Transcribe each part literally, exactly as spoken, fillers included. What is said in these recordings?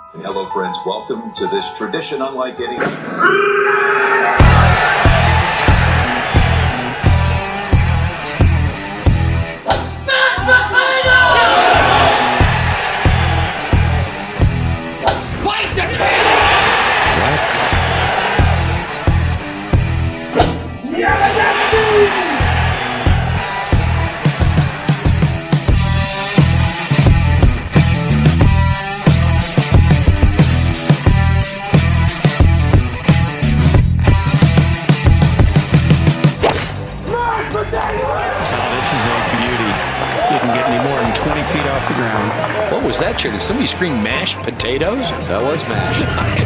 Hello, friends. Welcome to this tradition unlike any. Fight the king! What? Feet off the ground. What was that, chair? Did somebody scream mashed potatoes? That was mashed.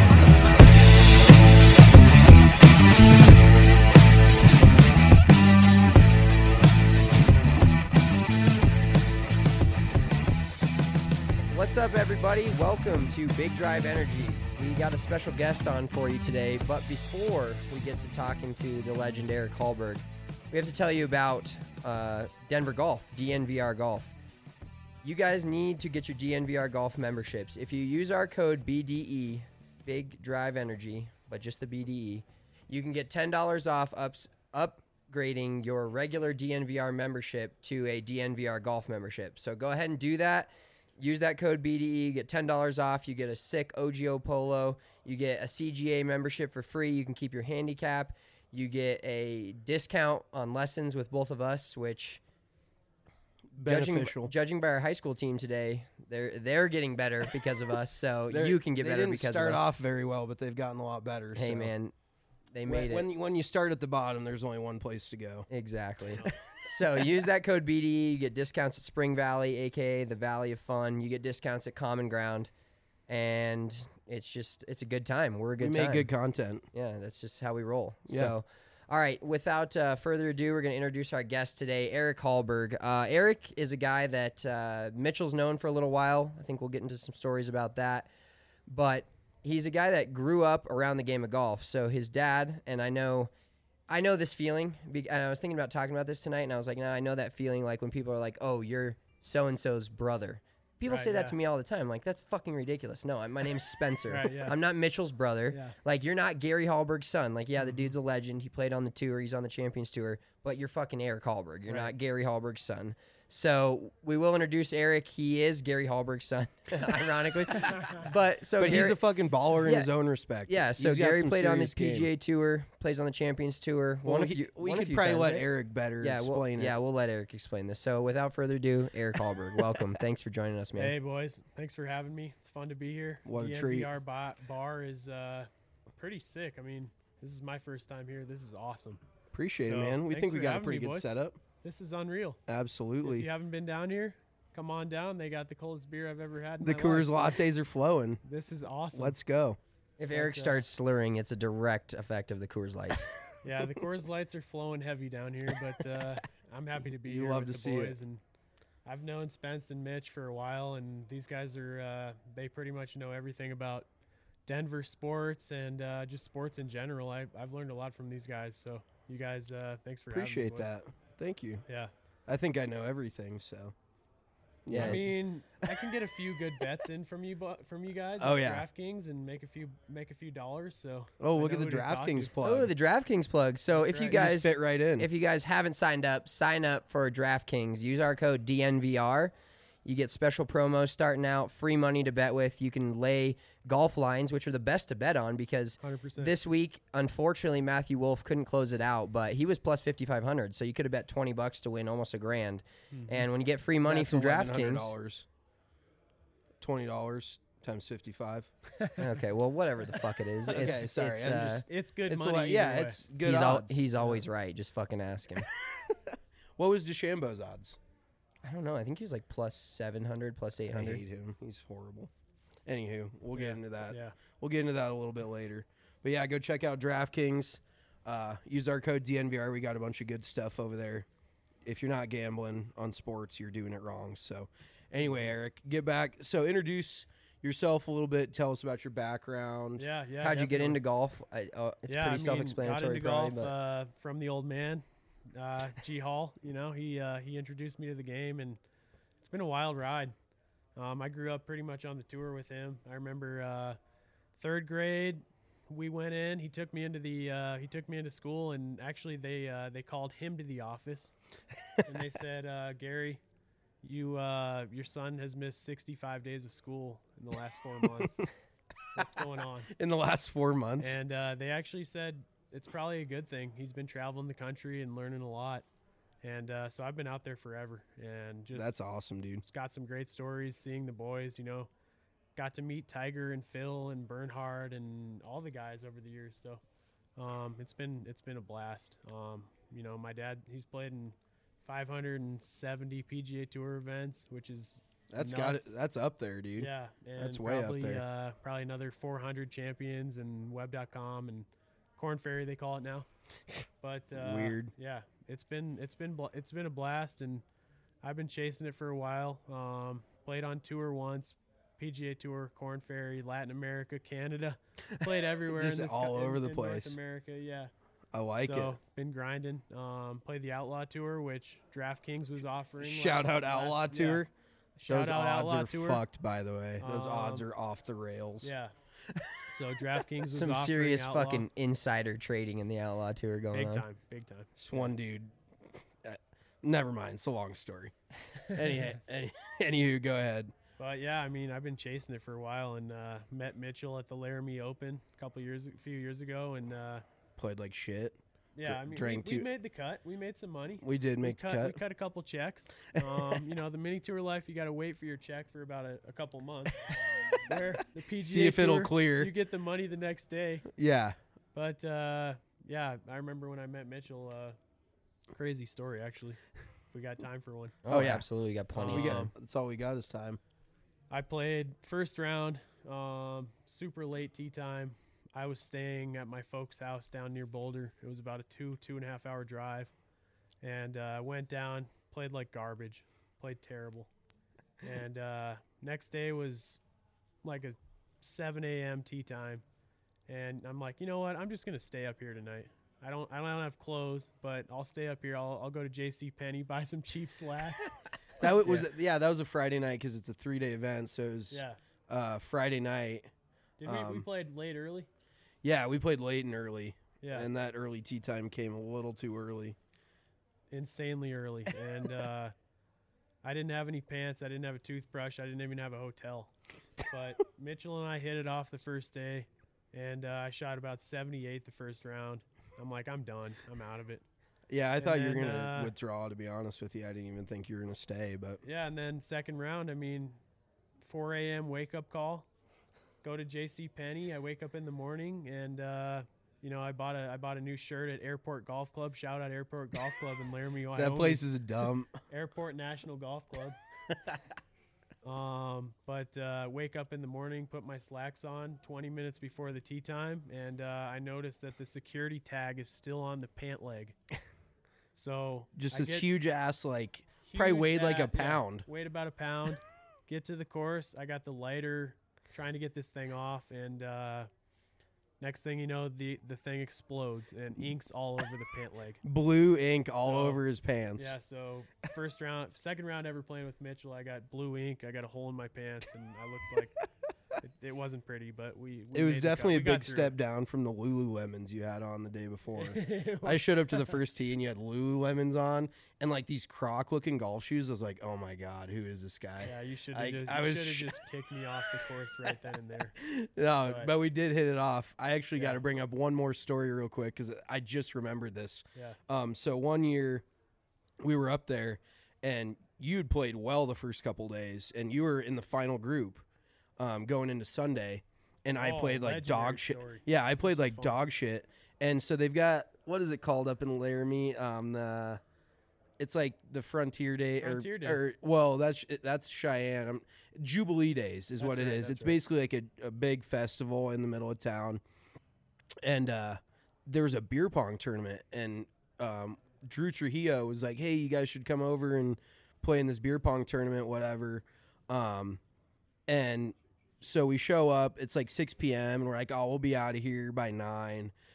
What's up, everybody? Welcome to Big Drive Energy. We got a special guest on for you today, but before we get to talking to the legend Eric Hallberg, we have to tell you about uh, Denver Golf, D N V R Golf. You guys need to get your D N V R Golf memberships. If you use our code B D E, Big Drive Energy, but just the B D E, you can get ten dollars off ups, upgrading your regular D N V R membership to a D N V R Golf membership. So go ahead and do that. Use that code B D E, get ten dollars off. You get a sick O G O polo. You get a C G A membership for free. You can keep your handicap. You get a discount on lessons with both of us, which... Judging, judging by our high school team today, they're they're getting better because of us. So you can get better because of us. They didn't start off very well, but they've gotten a lot better. Hey so. man, they made when, it. When when you start at the bottom, there's only one place to go. Exactly. So use that code B D E. You get discounts at Spring Valley, aka the Valley of Fun. You get discounts at Common Ground, and it's just it's a good time. We're a good we time. make good content. Yeah, that's just how we roll. Yeah. So. All right, without uh, further ado, we're going to introduce our guest today, Eric Hallberg. Uh, Eric is a guy that uh, Mitchell's known for a little while. I think we'll get into some stories about that. But he's a guy that grew up around the game of golf. So his dad, and I know I know this feeling, and I was thinking about talking about this tonight, and I was like, no, I know that feeling like when people are like, oh, you're so-and-so's brother. People right, say that yeah. to me all the time. Like, that's fucking ridiculous. No, my name's Spencer. Right, yeah. I'm not Mitchell's brother. Yeah. Like, you're not Gary Hallberg's son. Like, yeah, the dude's a legend. He played on the tour. He's on the Champions Tour. But you're fucking Eric Hallberg. You're Right. not Gary Hallberg's son. So we will introduce Eric. He is Gary Hallberg's son, ironically. But so But Gary, he's a fucking baller in Yeah. his own respect. yeah. So He's got Gary some played on the serious P G A game. Tour, plays on the Champions Tour. Well, one we of could, you, we one could of you probably times, let right? Eric better Yeah, we'll, explain it. yeah, we'll let Eric explain this. So without further ado, Eric Hallberg, welcome. Thanks for joining us, man. Hey, boys. Thanks for having me. It's fun to be here. What a D N V treat. R bar, bar is uh, pretty sick. I mean, this is my first time here. This is awesome. Appreciate So, it, man. We thanks think we for got a having pretty me, good boys. setup. This is unreal. Absolutely. If you haven't been down here, come on down. They got the coldest beer I've ever had in The my Coors life. lattes are flowing. This is awesome. Let's go. If Eric uh, starts slurring, it's a direct effect of the Coors Lights. Yeah, the Coors Lights are flowing heavy down here, but uh, I'm happy to be You here love with to the see it. boys. And I've known Spence and Mitch for a while, and these guys are uh, they pretty much know everything about Denver sports and uh, just sports in general. I, I've learned a lot from these guys, so you guys, uh, thanks for Appreciate having me. that. Thank you. Boys. Yeah. I think I know everything, so. Yeah. I mean, I can get a few good bets in from you, bu- from you guys. Oh, at yeah. DraftKings and make a few, make a few dollars. So. Oh, I look at know the who to talk DraftKings to. plug. Oh, the DraftKings plug. So That's if you right. You guys just fit right in. if you guys haven't signed up, sign up for DraftKings. Use our code D N V R. You get special promos starting out, free money to bet with. You can lay golf lines, which are the best to bet on because one hundred percent. this week, unfortunately, Matthew Wolf couldn't close it out, but he was plus fifty-five hundred, so you could have bet twenty bucks to win almost a grand. Mm-hmm. And when you get free money That's from eleven hundred DraftKings, dollars. twenty dollars times fifty-five. okay, well, whatever the fuck it is, Okay, it's, sorry, it's, I'm uh, just- It's good It's a money. lot, yeah, either way. it's good he's, al- odds. he's always right. Just fucking ask him. What was DeChambeau's odds? I don't know. I think he was like plus seven hundred, plus eight I hundred. hate him. He's horrible. Anywho, we'll Yeah, get into that. Yeah. We'll get into that a little bit later. But yeah, go check out DraftKings. Uh, use our code D N V R. We got a bunch of good stuff over there. If you're not gambling on sports, you're doing it wrong. So anyway, Eric, get back. So introduce yourself a little bit. Tell us about your background. Yeah, yeah. How'd you get definitely. into golf? I, uh, it's yeah, pretty I mean, self-explanatory, got into probably. golf But uh, from the old man, uh, G Hall. You know, he uh, he introduced me to the game, and it's been a wild ride. Um, I grew up pretty much on the tour with him. I remember uh, third grade, we went in. He took me into the uh, he took me into school, and actually they uh, they called him to the office, and they said, uh, Gary, you uh, your son has missed sixty-five days of school in the last four months. What's going on? In the last four months. And uh, they actually said it's probably a good thing. He's been traveling the country and learning a lot. And uh, so I've been out there forever, and just That's awesome, dude. got some great stories, seeing the boys, you know, got to meet Tiger and Phil and Bernhard and all the guys over the years. So um, it's been it's been a blast. Um, you know, my dad, he's played in five hundred seventy P G A Tour events, which is That's nuts. got it. That's up there, dude. Yeah, and That's way up probably, there. Uh, probably another four hundred champions and web dot com and Corn Ferry, they call it now. But uh, Weird. Yeah, it's been it's been bl- it's been a blast, and I've been chasing it for a while. Um, played on tour once, P G A Tour, Corn Ferry, Latin America, Canada. Played everywhere. Just in this all co- over in, the in place. North America, yeah. I like so, it. been grinding. Um, played the Outlaw Tour, which DraftKings was offering. Shout last- out Outlaw last- yeah. Tour. Shout Those out odds Outlaw are Tour. fucked, by the way. Those odds Um, are off the rails. Yeah. So DraftKings was Some offering serious Outlaw. fucking insider trading in the Outlaw Tour going big on. time, big time. This one dude. Uh, never mind. It's a long story. any, any, anywho, go ahead. But yeah, I mean, I've been chasing it for a while, and uh, met Mitchell at the Laramie Open a couple years, a few years ago, and uh, Played like shit. yeah, Dra- I mean, we, drank we two- made the cut. We made some money. We did make we the cut, We cut. cut a couple checks. Um, you know, the mini tour life, you got to wait for your check for about a, a couple months. Where the P G A See if it'll Tour, clear. You get the money the next day. Yeah. But uh, yeah, I remember when I met Mitchell. Uh, crazy story, actually. If we got time for one. Oh, Oh, yeah. absolutely. Got plenty Um, of We time. got, that's all we got is time. I played first round, um, super late tee time. I was staying at my folks' house down near Boulder. It was about a two, two and a half hour drive. And I uh, went down, played like garbage, played terrible. And uh, next day was like a seven a.m. tee time. And I'm like, you know what? I'm just going to stay up here tonight. I don't I don't have clothes, but I'll stay up here. I'll, I'll go to J C Penney, buy some cheap slacks. That w- was yeah. That was a Friday night because it's a three day event. So it was Yeah. uh, Friday night. Did we, we Um, played late early? Yeah, we played late and early. Yeah. And that early tea time came a little too early. Insanely early. And uh, I didn't have any pants. I didn't have a toothbrush. I didn't even have a hotel. But Mitchell and I hit it off the first day, and uh, I shot about seventy-eight the first round. I'm like, I'm done. I'm out of it. Yeah, I And thought you were then, gonna uh, withdraw. To be honest with you, I didn't even think you were gonna stay. But Yeah, and then second round, I mean, four a.m. wake-up call. Go to J C Penney. I wake up in the morning, and uh, you know, I bought a I bought a new shirt at Airport Golf Club. Shout out Airport Golf Club in Laramie, Wyoming. that place is a dump. Airport National Golf Club. um, but uh, wake up in the morning, put my slacks on twenty minutes before the tee time, and uh, I noticed that the security tag is still on the pant leg. So Just I this get huge ass, like probably huge weighed like a hat, yeah, pound. weighed about a pound. Get to the course. I got the lighter, trying to get this thing off, and uh, next thing you know, the the thing explodes and inks all over the pant leg. Blue ink all So, over his pants. Yeah, so first round, second round ever playing with Mitchell, I got blue ink. I got a hole in my pants, and I looked like it, it wasn't pretty, but we. we It was made the cut. definitely a We got big through step down from the Lululemons you had on the day before. it. I showed up to the first tee and you had Lululemons on and like these croc looking golf shoes. I was like, oh my God, who is this guy? Yeah, you should I- have just, I you was should have sh- just kicked me off the course right then and there. No, But- but we did hit it off. I actually got Yeah. to bring up one more story real quick because I just remembered this. Yeah. Um, so one year we were up there and you had played well the first couple days and you were in the final group um, going into Sunday. And I Oh, played like legendary dog shit. story. Yeah, I played was like fun. dog shit. And so they've got, what is it called up in Laramie? Um, the, it's like the Frontier Day Frontier or, Days. or well, that's that's Cheyenne. Um Jubilee Days is That's what it right, is. that's It's right. basically like a, a big festival in the middle of town. And uh, there was a beer pong tournament, and um, Drew Trujillo was like, "Hey, you guys should come over and play in this beer pong tournament, whatever." Um, and so we show up. It's like six p.m. and we're like, "Oh, we'll be out of here by nine."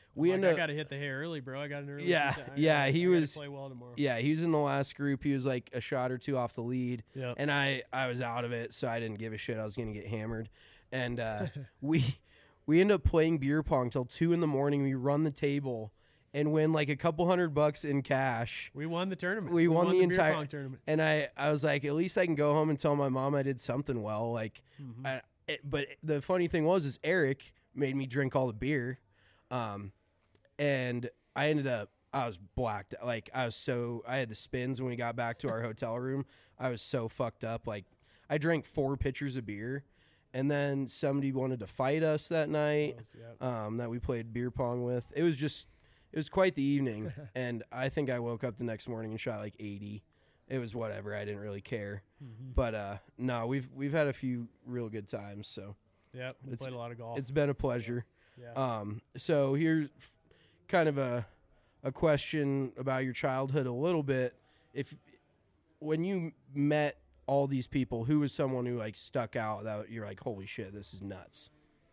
we Like, end I up. got to hit the hay early, bro. I got an early. Yeah, tee time. I yeah, gotta- he I gotta was- play well tomorrow. Yeah, he was in the last group. He was like a shot or two off the lead, Yep. and I I was out of it, so I didn't give a shit. I was gonna get hammered, and uh, we we end up playing beer pong till two in the morning. We run the table and win like a couple hundred bucks in cash. We won the tournament. We won the beer entire- pong tournament. And I, I was like, at least I can go home and tell my mom I did something well. Like, Mm-hmm. I, it, but the funny thing was, is Eric made me drink all the beer, um, and I ended up, I was blacked. Like, I was so, I had the spins when we got back to our hotel room. I was so fucked up. Like, I drank four pitchers of beer, and then somebody wanted to fight us that night. Yep. Um, that we played beer pong with. It was just, it was quite the evening, and I think I woke up the next morning and shot like eighty. It was whatever. I didn't really care. Mm-hmm. But uh, no, we've we've had a few real good times. So Yep. We It's- played a lot of golf. it's been a pleasure. yeah. Um, so here's f- kind of a a question about your childhood a little bit. If when you met all these people, who was someone who like stuck out that you're like, holy shit, this is nuts?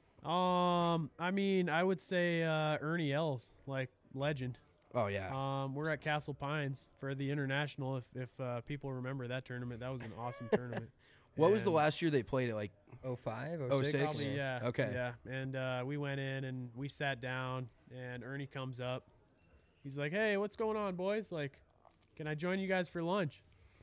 Um, I mean, I would say uh, Ernie Els, like legend. Oh yeah, Um, we're at Castle Pines for the international. If if uh, people remember that tournament, that was an awesome tournament. what was the And last year they played it? Like oh five, oh oh six? six? Probably, yeah. Okay. Yeah, and uh, we went in and we sat down, and Ernie comes up. He's like, "Hey, what's going on, boys? Like, can I join you guys for lunch?"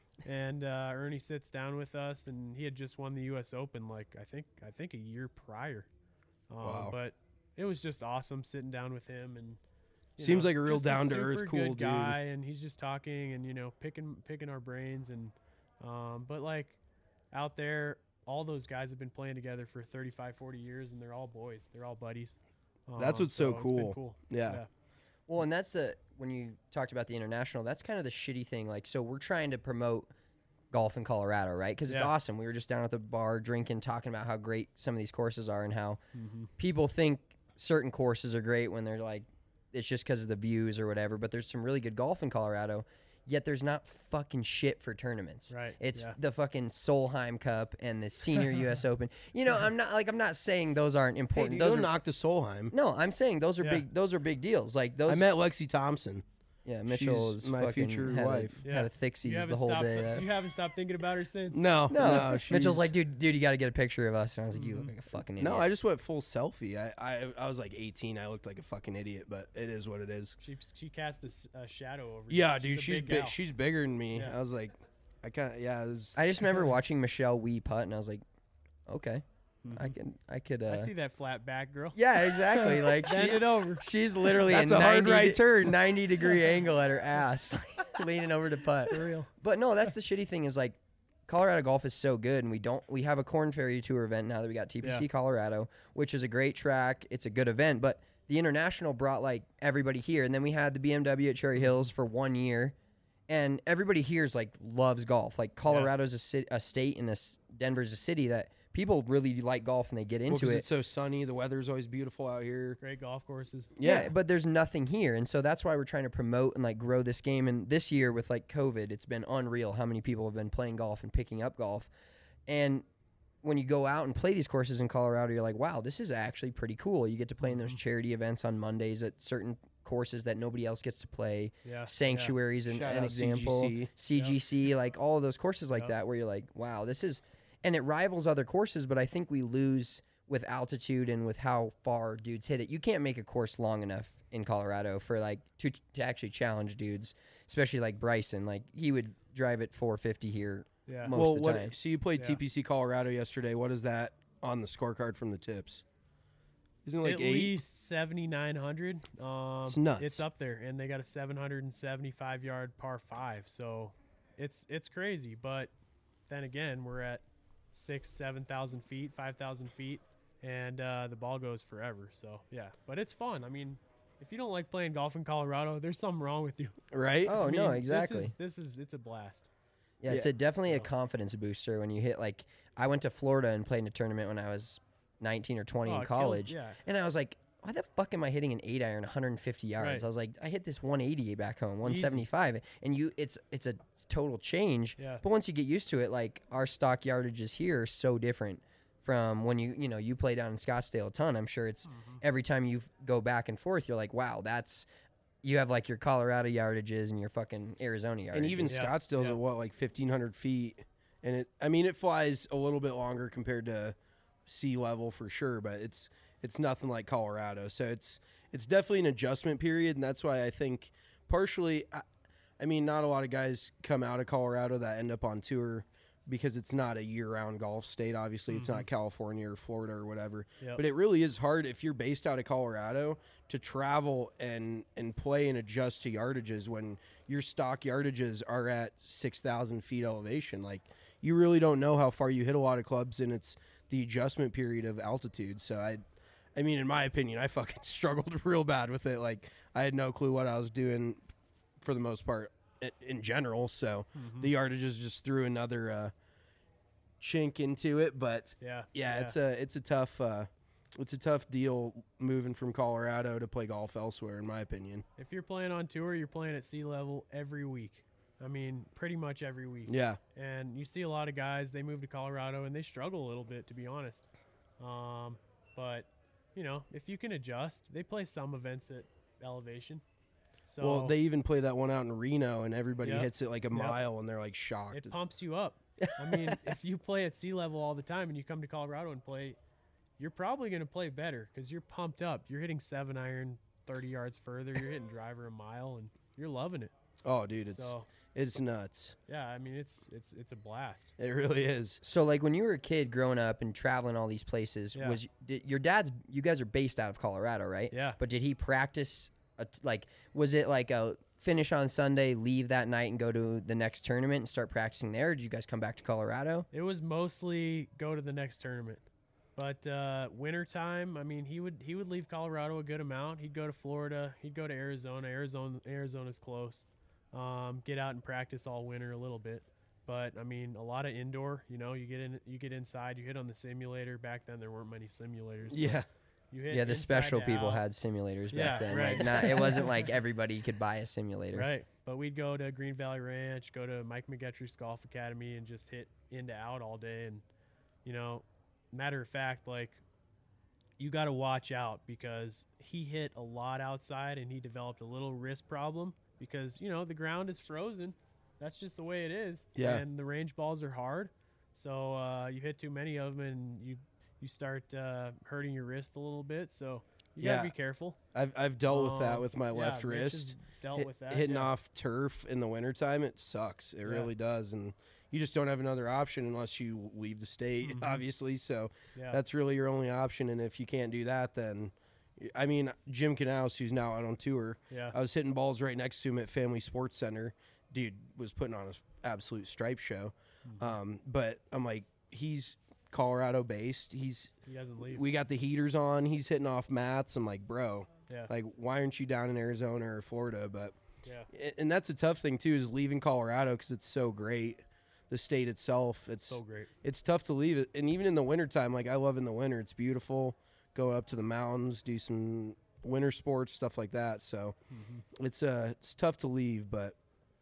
And uh, Ernie sits down with us, and he had just won the U S Open, like I think I think a year prior. Um, Wow. But it was just awesome sitting down with him, and you Seems know, like a real just down-to-earth, super cool good dude. guy, and he's just talking and you know picking picking our brains, and um, but like out there, all those guys have been playing together for thirty-five, forty years, and they're all boys. They're all buddies. That's Um, what's so it's been cool. cool. Yeah. Well, and that's the when you talked about the international, that's kind of the shitty thing. Like, so we're trying to promote golf in Colorado, right? Because it's Yeah. awesome. We were just down at the bar drinking, talking about how great some of these courses are and how Mm-hmm. people think certain courses are great when they're like, it's just because of the views or whatever. But there's some really good golf in Colorado. Yet there's not fucking shit for tournaments. Right, It's yeah. the fucking Solheim Cup and the Senior U S Open. You know, I'm not like I'm not saying those aren't Hey, important. dude, those don't are, knock the Solheim. no, I'm saying those are Yeah. big. Those are big deals. Like those. I met Lexi Thompson. Yeah, Mitchell She's is my fucking future had wife. A, had a thixies You the haven't whole stopped. day. uh, You haven't stopped thinking about her since. No, no, no, Mitchell's she's- like, dude, dude, you got to get a picture of us. And I was like, you look like a fucking idiot. No, I just went full selfie. I, I I was like eighteen. I looked like a fucking idiot, but it is what it is. She she cast a, s- a shadow over. you. Yeah, dude, a she's big big. gal. She's bigger than me. Yeah. I was like, I kind of yeah. It was, I just remember watching Michelle Wee putt, and I was like, okay, I Mm-hmm. can, I could. Uh, I see that flat back girl. Yeah, exactly. Like Bend she, it over. she's literally That's a, a hard ninety right turn. ninety degree angle at her ass, leaning over to putt. For real. But no, that's the shitty thing is like Colorado golf is so good, and we don't. We have a Corn Ferry Tour event now that we got T P C Yeah. Colorado, which is a great track. It's a good event, but the international brought like everybody here, and then we had the B M W at Cherry Hills for one year, and everybody here is like loves golf. Like Colorado's a, ci- a state, and a s Denver's a city that people really like golf and they get well, into 'cause it. It's so sunny. The weather's always beautiful out here. Great golf courses. Yeah. but there's nothing here, and so that's why we're trying to promote and like grow this game. And this year with like COVID, it's been unreal how many people have been playing golf and picking up golf. And when you go out and play these courses in Colorado, you're like, wow, this is actually pretty cool. You get to play in those charity events on Mondays at certain courses that nobody else gets to play. Yeah. Sanctuaries and Shout an out example, C G C. C G C, like all of those courses like Yep. that, where you're like, wow, this is, and it rivals other courses. But I think we lose with altitude and with how far dudes hit it. You can't make a course long enough in Colorado for like to to actually challenge dudes, especially like Bryson. Like he would drive it four fifty here Yeah. most well, of the what? time. So you played Yeah. T P C Colorado yesterday. What is that on the scorecard from the tips? Isn't it like At eight? least seventy-nine hundred. Um, It's nuts. It's up there, and they got a seven hundred seventy-five yard par five. So it's it's crazy. But then again, we're at six, seven thousand feet, five thousand feet, and uh, the ball goes forever. So yeah, but it's fun. I mean, if you don't like playing golf in Colorado, there's something wrong with you. right? Oh I no, mean, exactly. This is, this is it's a blast. Yeah, it's Yeah, a definitely a so- confidence booster when you hit like I went to Florida and played in a tournament when I was nineteen or twenty Oh, in it kills- college. yeah. And I was like, why the fuck am I hitting an eight iron one hundred fifty yards? Right. I was like, I hit this one eighty back home, one seventy-five. And you it's it's a total change. Yeah. But once you get used to it, like our stock yardages here are so different from when you you know you play down in Scottsdale a ton. I'm sure it's every time you go back and forth, you're like, wow, that's you have like your Colorado yardages and your fucking Arizona yardages. And even Yeah, Scottsdale's yeah. at what, like fifteen hundred feet, and it. I mean, it flies a little bit longer compared to sea level for sure, but it's it's nothing like Colorado. So it's it's definitely an adjustment period, and that's why I think partially. I, I mean, not a lot of guys come out of Colorado that end up on tour because it's not a year-round golf state. Obviously, it's not California or Florida or whatever. Yep. But it really is hard if you're based out of Colorado to travel and and play and adjust to yardages when your stock yardages are at six thousand feet elevation. Like, you really don't know how far you hit a lot of clubs, and it's the adjustment period of altitude. So, I I mean, in my opinion, I fucking struggled real bad with it. Like, I had no clue what I was doing for the most part i- in general. So, the yardages just threw another uh, chink into it. But, Yeah. yeah, it's a it's a tough uh, it's a tough deal moving from Colorado to play golf elsewhere, in my opinion. If you're playing on tour, you're playing at sea level every week. I mean, pretty much every week. Yeah, And you see a lot of guys, they move to Colorado and they struggle a little bit, to be honest. Um, but, you know, if you can adjust, they play some events at elevation. So well, they even play that one out in Reno, and everybody Yep. hits it like a Yep. mile, and they're like shocked. it It's- pumps you up. I mean, if you play at sea level all the time and you come to Colorado and play, you're probably going to play better because you're pumped up. You're hitting seven iron thirty yards further. You're hitting driver a mile, and you're loving it. oh, dude, it's So, it's nuts. yeah, I mean, it's it's it's a blast. It really is. So, like, when you were a kid growing up and traveling all these places, Yeah. was did, your dad's? You guys are based out of Colorado, right? Yeah. But did he practice? A t- like, was it like a finish on Sunday, leave that night, and go to the next tournament and start practicing there? Or did you guys come back to Colorado? It was mostly go to the next tournament. But uh, wintertime, I mean, he would he would leave Colorado a good amount. He'd go to Florida. He'd go to Arizona. Arizona Arizona's close. Um, get out and practice all winter a little bit. But I mean, a lot of indoor. You know, you get in, you get inside. You hit on the simulator. Back then, there weren't many simulators. but Yeah. You hit Yeah, the inside special to people out. had simulators Yeah, back then. right. Like, not, it wasn't like everybody could buy a simulator. Right. But we'd go to Green Valley Ranch, go to Mike McGettrick's Golf Academy, and just hit into out all day. And, you know, matter of fact, like, you got to watch out because he hit a lot outside and he developed a little wrist problem because, you know, the ground is frozen. That's just the way it is. Yeah. And the range balls are hard. So uh, you hit too many of them and you, you start uh, hurting your wrist a little bit. So you got Yeah. to be careful. I've I've dealt with that Um, with my yeah, left Mitch has wrist. Dealt Hit- with that. hitting yeah. off turf in the wintertime, it sucks. It Yeah. really does. And you just don't have another option unless you leave the state, Mhm. obviously. So Yeah. that's really your only option. And if you can't do that, then, I mean, Jim Knaus, who's now out on tour, yeah. I was hitting balls right next to him at Family Sports Center. Dude was putting on an absolute stripe show. Mm-hmm. Um, but I'm like, he's Colorado based. He's He doesn't leave. we got the heaters on. He's hitting off mats. I'm like, bro, yeah. like, why aren't you down in Arizona or Florida? But yeah. a- and that's a tough thing too, is leaving Colorado because it's so great. The state itself, it's So great. it's tough to leave it. And even in the wintertime, like, I love in the winter. It's beautiful. Go up to the mountains, do some winter sports, stuff like that. So it's uh it's tough to leave. But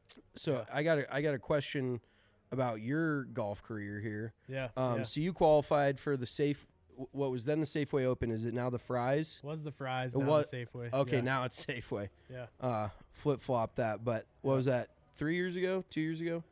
so Yeah. I got a, I got a question about your golf career here. Yeah. Um, yeah. So you qualified for the safe. What was then the Safeway Open? Is it now the Fries? Was the Fries It now was- the Safeway? Okay, yeah. now it's Safeway. Yeah. Uh, flip flop that. But what Yeah. was that? Three years ago? Two years ago?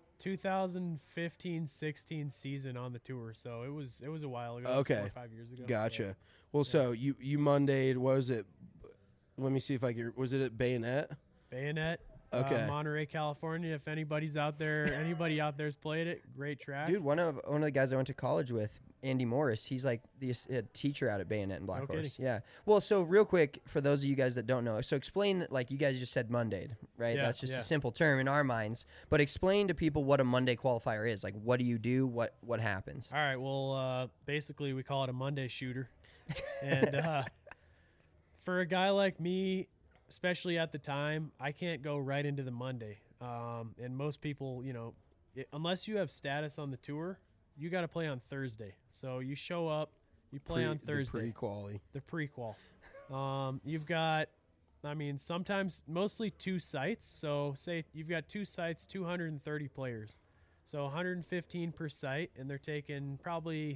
twenty fifteen sixteen season on the tour, so it was it was a while ago. It was Okay. four or five years ago. Gotcha. Yeah. Well, so you you Mondayed. What was it? Let me see if I can. Was it at Bayonet? Bayonet. Okay. Uh, Monterey, California. If anybody's out there, anybody out there's played it. Great track. Dude, one of one of the guys I went to college with, Andy Morris, he's like the ass- uh, teacher out at Bayonet and Black No Horse. kidding. Yeah. Well, so real quick for those of you guys that don't know, so explain that, like, you guys just said Mondayed, right? Yeah, That's just yeah. a simple term in our minds. But explain to people what a Monday qualifier is. Like, what do you do? What what happens? All right. Well, uh, basically, we call it a Monday shooter. And uh, for a guy like me, especially at the time, I can't go right into the Monday. Um, and most people, you know, it, unless you have status on the tour, you got to play on Thursday. So you show up, you play Pre- on Thursday. The pre-quali. The prequel. Um, you've got, I mean, sometimes mostly two sites. So say you've got two sites, two hundred thirty players. So one hundred fifteen per site, and they're taking probably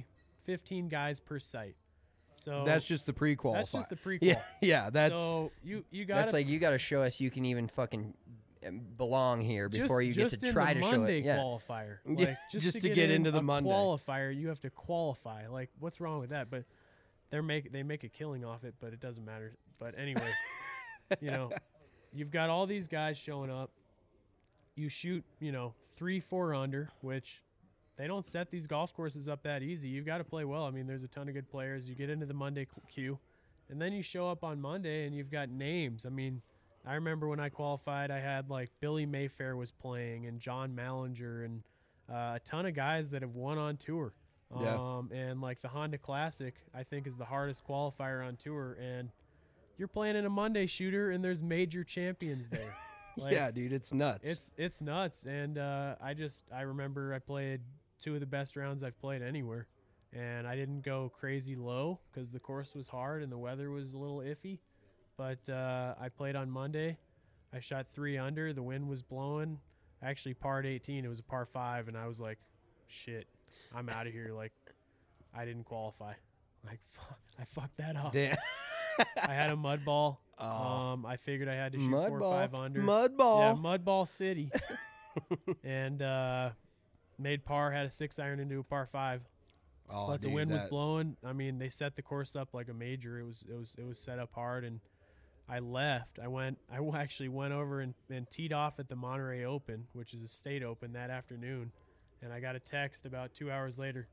fifteen guys per site. So That's just the pre-qualifier. That's just the pre-qual. Yeah, yeah. That's so you you got That's like you got to show us you can even fucking um, belong here just, before you just get to in try the to Monday show it. Yeah. qualifier. Yeah, Like, just, just to, to get, get in into the a Monday. qualifier, you have to qualify. Like, what's wrong with that? But they're make they make a killing off it, but it doesn't matter. But anyway, you know, you've got all these guys showing up. You shoot, you know, three, four under, which they don't set these golf courses up that easy. You've got to play well. I mean, there's a ton of good players. You get into the Monday queue, and then you show up on Monday, and you've got names. I mean, I remember when I qualified, I had like Billy Mayfair was playing, and John Mallinger, and uh, a ton of guys that have won on tour. Yeah. Um, and like the Honda Classic, I think is the hardest qualifier on tour, and you're playing in a Monday shooter, and there's major champions there. Like, yeah, dude. It's nuts. It's it's nuts, and uh, I just I remember I played two of the best rounds I've played anywhere, and I didn't go crazy low because the course was hard and the weather was a little iffy, but uh, I played on Monday. I shot three under. The wind was blowing. I actually parred eighteen. It was a par five, and I was like, shit, I'm out of here. Like, I didn't qualify. Like, fuck, I fucked that up. Damn. I had a mud ball. Oh. Um, I figured I had to shoot Mud four ball. or five under. Mud ball. Yeah, mud ball city. and uh, made par. Had a six iron into a par five. Oh, but the dude, wind was that- blowing. I mean, they set the course up like a major. It was it was it was set up hard, and I left. I went. I w- actually went over and, and teed off at the Monterey Open, which is a state open, that afternoon. And I got a text about two hours later,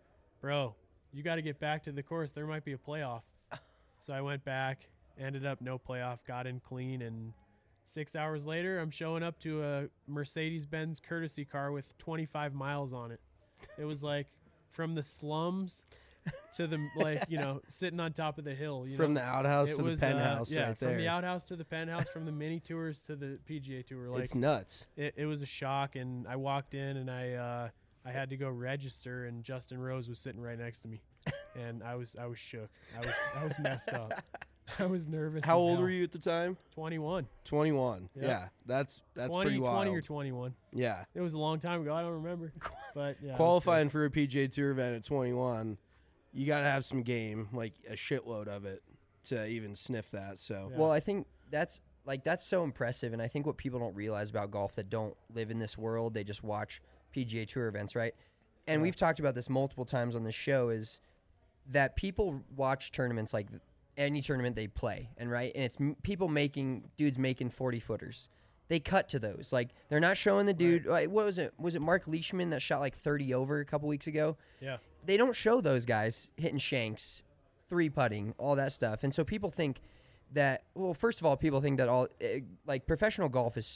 bro, you got to get back to the course. There might be a playoff. So I went back, ended up no playoff, got in clean, and six hours later, I'm showing up to a Mercedes-Benz courtesy car with twenty-five miles on it. It was like from the slums to the, like, you know, sitting on top of the hill. You From know? the outhouse It to was, the uh, penthouse yeah, right from there. the outhouse to the penthouse, from the mini tours to the P G A Tour. Like, it's nuts. it, it was a shock, and I walked in, and I uh, I had to go register, and Justin Rose was sitting right next to me, and I was I was shook. I was I was messed up. I was nervous. How as old hell. were you at the time? twenty-one. twenty-one. Yep. Yeah, that's that's twenty, pretty wild. twenty or twenty-one. Yeah. It was a long time ago. I don't remember. But yeah, I was Qualifying for a P G A Tour event at twenty-one, you got to have some game, like a shitload of it, to even sniff that. So, Yeah. Well, I think that's like that's so impressive, and I think what people don't realize about golf that don't live in this world, they just watch P G A Tour events, right? And we've talked about this multiple times on this show, is that people watch tournaments like any tournament they play, and right, and it's m- people making dudes making forty footers. They cut to those, like they're not showing the dude. Like, what was it? Was it Mark Leishman that shot like thirty over a couple weeks ago? Yeah. They don't show those guys hitting shanks, three putting, all that stuff. And so people think that, well, first of all, people think that all, eh, like professional golf is,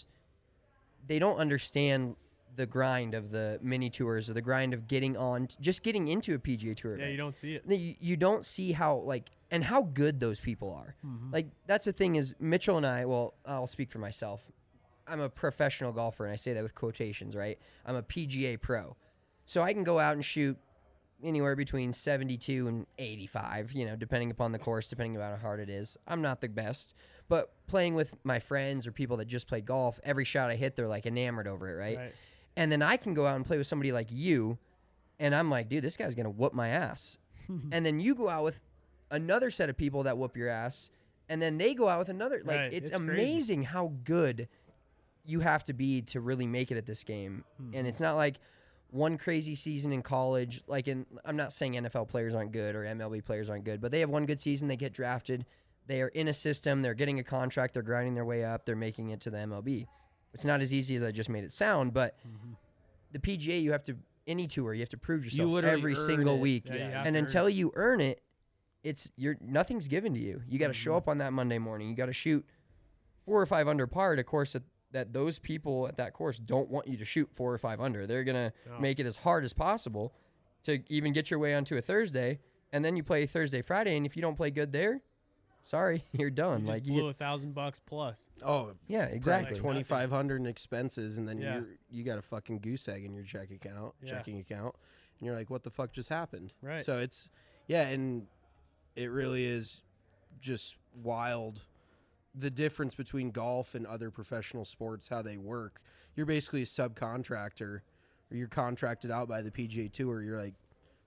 they don't understand the grind of the mini tours or the grind of getting on, just getting into a P G A Tour Yeah, event. you don't see it. You, you don't see how, like, and how good those people are. Like, that's the thing is, Mitchell and I, well, I'll speak for myself. I'm a professional golfer, and I say that with quotations, right? I'm a P G A pro. So I can go out and shoot anywhere between seventy-two and eighty-five, you know, depending upon the course, depending on how hard it is. I'm not the best, but playing with my friends or people that just played golf, every shot I hit, they're like enamored over it, right? Right. And then I can go out and play with somebody like you, and I'm like, dude, this guy's going to whoop my ass. And then you go out with another set of people that whoop your ass, and then they go out with another. Like, Right, it's, it's crazy. amazing how good you have to be to really make it at this game. And it's not like one crazy season in college. Like, in, I'm not saying N F L players aren't good or M L B players aren't good, but they have one good season, they get drafted, they are in a system, they're getting a contract, they're grinding their way up, they're making it to the M L B. It's not as easy as I just made it sound, but the P G A, you have to, any tour, you have to prove yourself literally every earn single it. week. Yeah, you have And to earn until it. you earn it, it's you're nothing's given to you. You got to show Mm-hmm. up on that Monday morning. You got to shoot four or five under par at a course that, that those people at that course don't want you to shoot four or five under. They're gonna No. make it as hard as possible to even get your way onto a Thursday, and then you play Thursday, Friday, and if you don't play good there, sorry, you're done. You like just you blew get, a thousand bucks plus. oh, yeah, exactly. twenty five hundred in expenses, and then Yeah. you're you got a fucking goose egg in your check account, Yeah. checking account, and you're like, what the fuck just happened? Right. So it's yeah, and it really is just wild. The difference between golf and other professional sports, how they work. You're basically a subcontractor, or you're contracted out by the P G A Tour. You're like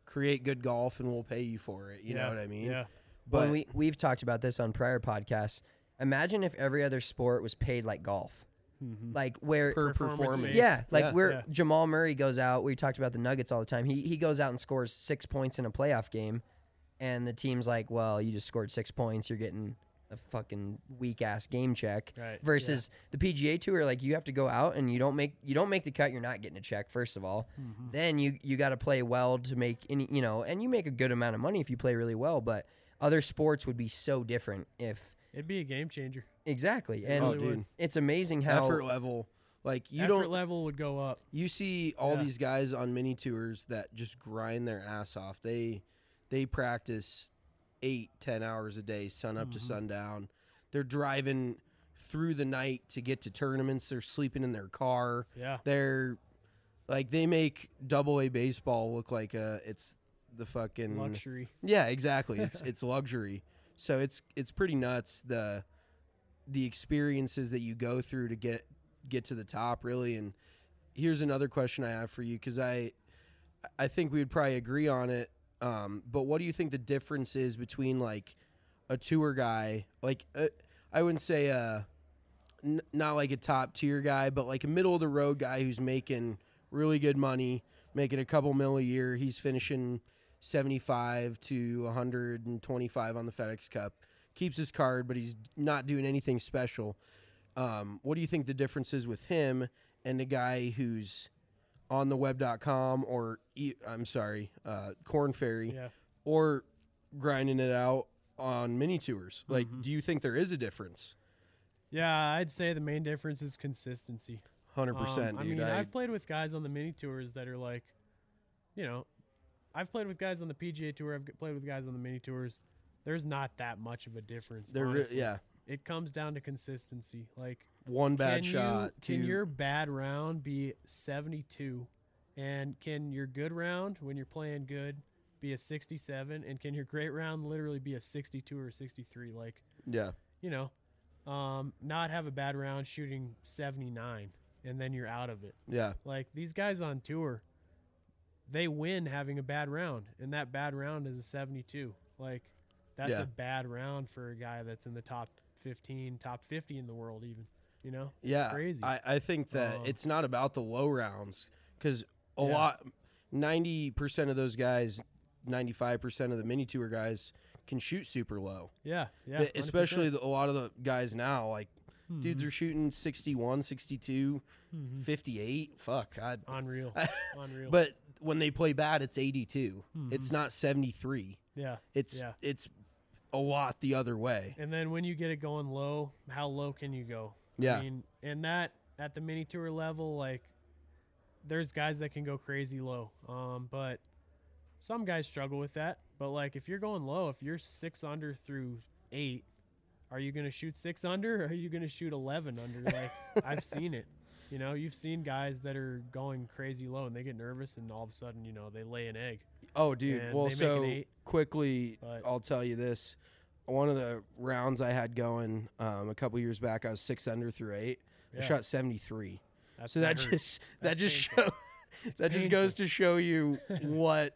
create good golf and we'll pay you for it. You yeah, know what I mean? Yeah. But When we we've talked about this on prior podcasts. Imagine if every other sport was paid like golf, Mm-hmm. like where per Performance performance. based. yeah, like Yeah. where Yeah. Jamal Murray goes out. We talked about the Nuggets all the time. He he goes out and scores six points in a playoff game, and the team's like, "Well, you just scored six points. You're getting a fucking weak ass game check." Right, Versus the P G A Tour, like you have to go out and you don't make you don't make the cut. You're not getting a check. First of all, Mm-hmm. then you you got to play well to make any you know, and you make a good amount of money if you play really well. But other sports would be so different if It'd be a game changer. exactly. And Oh, really would. dude. it's amazing how Effort level. Like you Effort don't level would go up. you see all Yeah. these guys on mini tours that just grind their ass off. They they practice eight, ten hours a day, sun up Mm-hmm. to sundown. They're driving through the night to get to tournaments. They're sleeping in their car. Yeah. They're like they make double A baseball look like a it's the fucking Luxury. Yeah, exactly. It's it's luxury. So it's it's pretty nuts the the experiences that you go through to get get to the top really. And here's another question I have for you cuz I I think we would probably agree on it. Um, but what do you think the difference is between like a tour guy, like uh, I wouldn't say uh n- not like a top tier guy, but like a middle of the road guy who's making really good money, making a couple mil a year. He's finishing seventy-five to one hundred twenty-five on the FedEx Cup. Keeps his card, but he's not doing anything special. Um, what do you think the difference is with him and the guy who's on the web dot com or e- I'm sorry, uh, Corn Ferry Yeah. or grinding it out on mini tours? Like, do you think there is a difference? Yeah, I'd say the main difference is consistency. one hundred percent, Um, I dude. mean, I, I've played with guys on the mini tours that are like, you know, I've played with guys on the P G A Tour. I've g- played with guys on the mini tours. There's not that much of a difference. they're re- honestly. yeah, It comes down to consistency. Like, one bad can shot. You, can two- your bad round be seventy-two? And can your good round, when you're playing good, be a sixty-seven? And can your great round literally be a sixty-two or a sixty-three? Like, yeah, you know, um, not have a bad round shooting seventy-nine, and then you're out of it. yeah, Like, these guys on tour, they win having a bad round, and that bad round is a seventy-two. Like, that's Yeah. a bad round for a guy that's in the top fifteen, top fifty in the world even, you know? It's yeah. crazy. I, I think that Um, it's not about the low rounds because a Yeah. lot, ninety percent of those guys, ninety-five percent of the mini tour guys can shoot super low. yeah, yeah. But especially one the, a lot of the guys now, like hundred percent. dudes are shooting sixty-one, sixty-two, Mhm. fifty-eight. Fuck, I'd, unreal, unreal. but when they play bad, it's eighty-two. Mhm. It's not seventy-three. yeah, It's Yeah. it's a lot the other way. and then when you get it going low, how low can you go? Yeah. I mean, and that at the mini tour level, like, there's guys that can go crazy low. Um, but some guys struggle with that. But like, if you're going low, if you're six under through eight, are you gonna shoot six under, or are you gonna shoot eleven under? Like, I've seen it. You know, you've seen guys that are going crazy low and they get nervous, and all of a sudden, you know, they lay an egg. Oh, dude. And Well, they make so an eight, quickly, but- I'll tell you this. One of the rounds I had going um, a couple years back, I was six under through eight. I Yeah. shot seventy-three. That's, So that hurts. just that That's just painful. show that just goes to show you what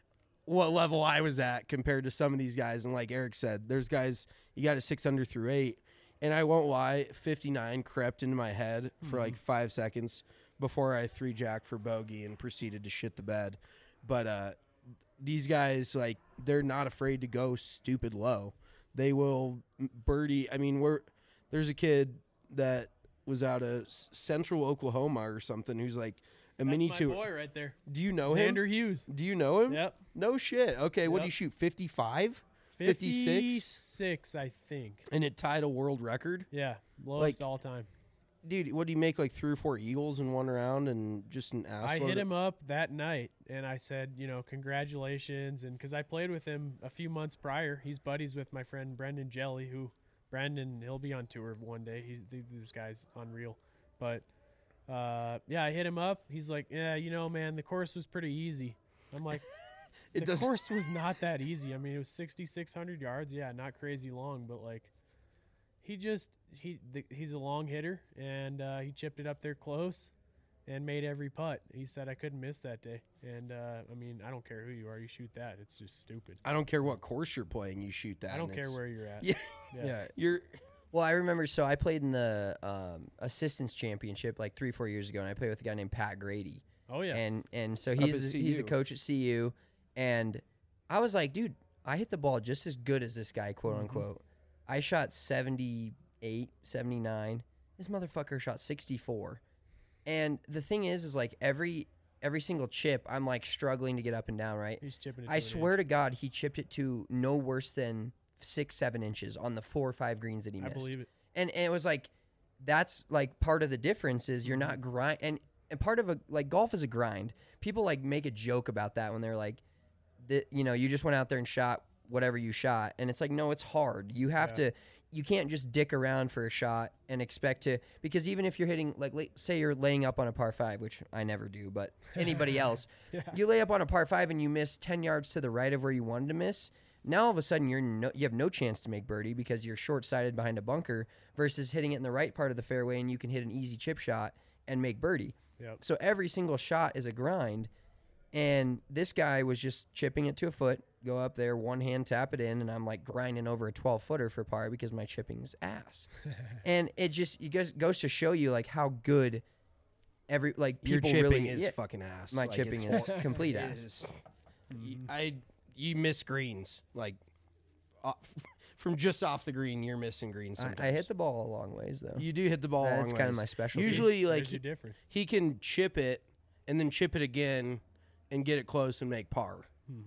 what level I was at compared to some of these guys. And like Eric said, there's guys you got a six under through eight, and I won't lie, fifty-nine crept into my head for like five seconds before I three jack for bogey and proceeded to shit the bed. But uh, these guys, like, they're not afraid to go stupid low. They will birdie. I mean, we're there's a kid that was out of S- Central Oklahoma or something who's like a That's mini my tour. boy right there. Do you know him? Xander Hughes. Do you know him? Yep. No shit. Okay, what do Yep. you shoot? fifty-five? fifty-six, fifty-six? I think. And it tied a world record? Yeah, lowest Like, all time. Dude, what do you make, like three or four eagles in one round and just an ass I load hit of- him up that night, and I said, you know, congratulations, and because I played with him a few months prior. He's buddies with my friend Brendan Jelly, who Brendan he'll be on tour one day. He's th- this guy's unreal, but uh, yeah, I hit him up. He's like, yeah, you know, man, the course was pretty easy. I'm like, It the does- course was not that easy. I mean, it was sixty-six hundred yards. Yeah, not crazy long, but like, he just he th- he's a long hitter, and uh, he chipped it up there close, and made every putt. He said I couldn't miss that day. And, uh, I mean, I don't care who you are. You shoot that. It's just stupid. I don't care what course you're playing. You shoot that. I don't and care it's- where you're at. Yeah. Yeah. Yeah. You're. Well, I remember. So I played in the um, assistants championship like three, four years ago, and I played with a guy named Pat Grady. Oh, yeah. And and so at he's the, he's the C U. coach at C U, and I was like, dude, I hit the ball just as good as this guy, quote Mm-hmm. unquote. I shot seventy-eight, seventy-nine. This motherfucker shot sixty-four. And the thing is, is like every every single chip, I'm like struggling to get up and down, right? He's chipping it I to an swear inch. to God, he chipped it to no worse than six, seven inches on the four or five greens that he I missed. believe it. And, and it was like, that's like part of the difference is you're not grind and, and part of a like golf is a grind. People like make a joke about that when they're like, the, you know, you just went out there and shot whatever you shot, and it's like, no, it's hard. You have Yeah. to, you can't just dick around for a shot and expect to, because even if you're hitting like, la- say you're laying up on a par five, which I never do, but anybody else, you lay up on a par five and you miss ten yards to the right of where you wanted to miss. Now all of a sudden you're no, you have no chance to make birdie because you're short-sighted behind a bunker versus hitting it in the right part of the fairway and you can hit an easy chip shot and make birdie. Yep. So every single shot is a grind, and this guy was just chipping it to a foot, go up there, one hand tap it in, and I'm like grinding over a twelve footer for par because my chipping is ass. And it just it goes, goes to show you like how good every like Your people chipping really is yeah, fucking ass. my Like, chipping it's- is complete it ass. is- y- I you miss greens like off, from just off the green. You're missing greens. I, Sometimes. I hit the ball a long ways though. You do hit the ball. a That's long kind of ways. my specialty. Usually, like There's he, your difference. he can chip it and then chip it again and get it close and make par.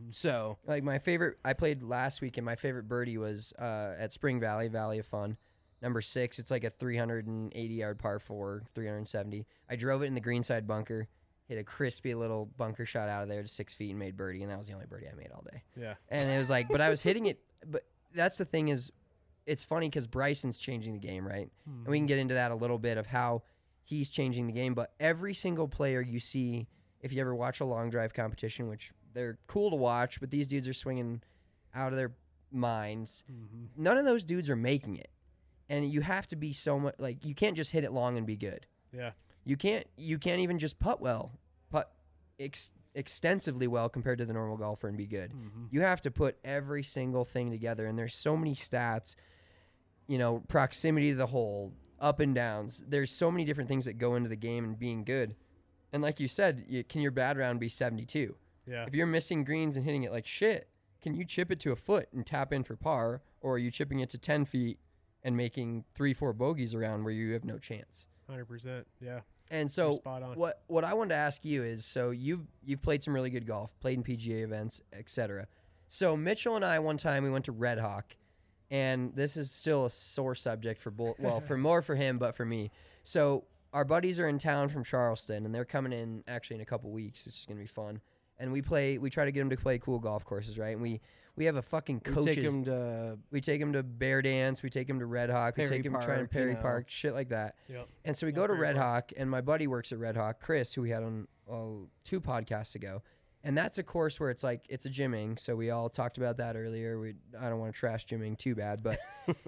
So Like my favorite, I played last week, and my favorite birdie was uh, at Spring Valley, Valley of Fun, number six. It's like a three hundred eighty yard par four, three hundred seventy. I drove it in the greenside bunker, hit a crispy little bunker shot out of there to six feet and made birdie, and that was the only birdie I made all day. Yeah. And it was like, but I was hitting it. But that's the thing is, it's funny because Bryson's changing the game, right? And we can get into that a little bit of how he's changing the game. But every single player you see, if you ever watch a long drive competition, which they're cool to watch, but these dudes are swinging out of their minds. None of those dudes are making it. And you have to be so much like you can't just hit it long and be good. Yeah. You can't you can't even just putt well, putt ex- extensively well compared to the normal golfer and be good. You have to put every single thing together, and there's so many stats, you know, proximity to the hole, up and downs. There's so many different things that go into the game and being good. And like you said, you, can your bad round be seventy-two? Yeah. If you're missing greens and hitting it like shit, can you chip it to a foot and tap in for par, or are you chipping it to ten feet and making three, four bogeys around where you have no chance? one hundred percent. Yeah. And so You're spot on. what what I wanted to ask you is, so you've you've played some really good golf, played in P G A events, et cetera. So Mitchell and I one time we went to Red Hawk, and this is still a sore subject for both. Well, for more for him, but for me. So our buddies are in town from Charleston, and they're coming in actually in a couple weeks. It's just gonna be fun. And we play. We try to get them to play cool golf courses, right? And we we have a fucking we coaches. take him to We take him to Bear Dance. We take him to Red Hawk. We Perry take him trying to Park, you Perry know. Park, shit like that. Yep. And so we Yeah, go to Perry Red Park. Hawk, and my buddy works at Red Hawk, Chris, who we had on uh, two podcasts ago. And that's a course where it's like it's a gymming. So we all talked about that earlier. We I don't want to trash gymming too bad, but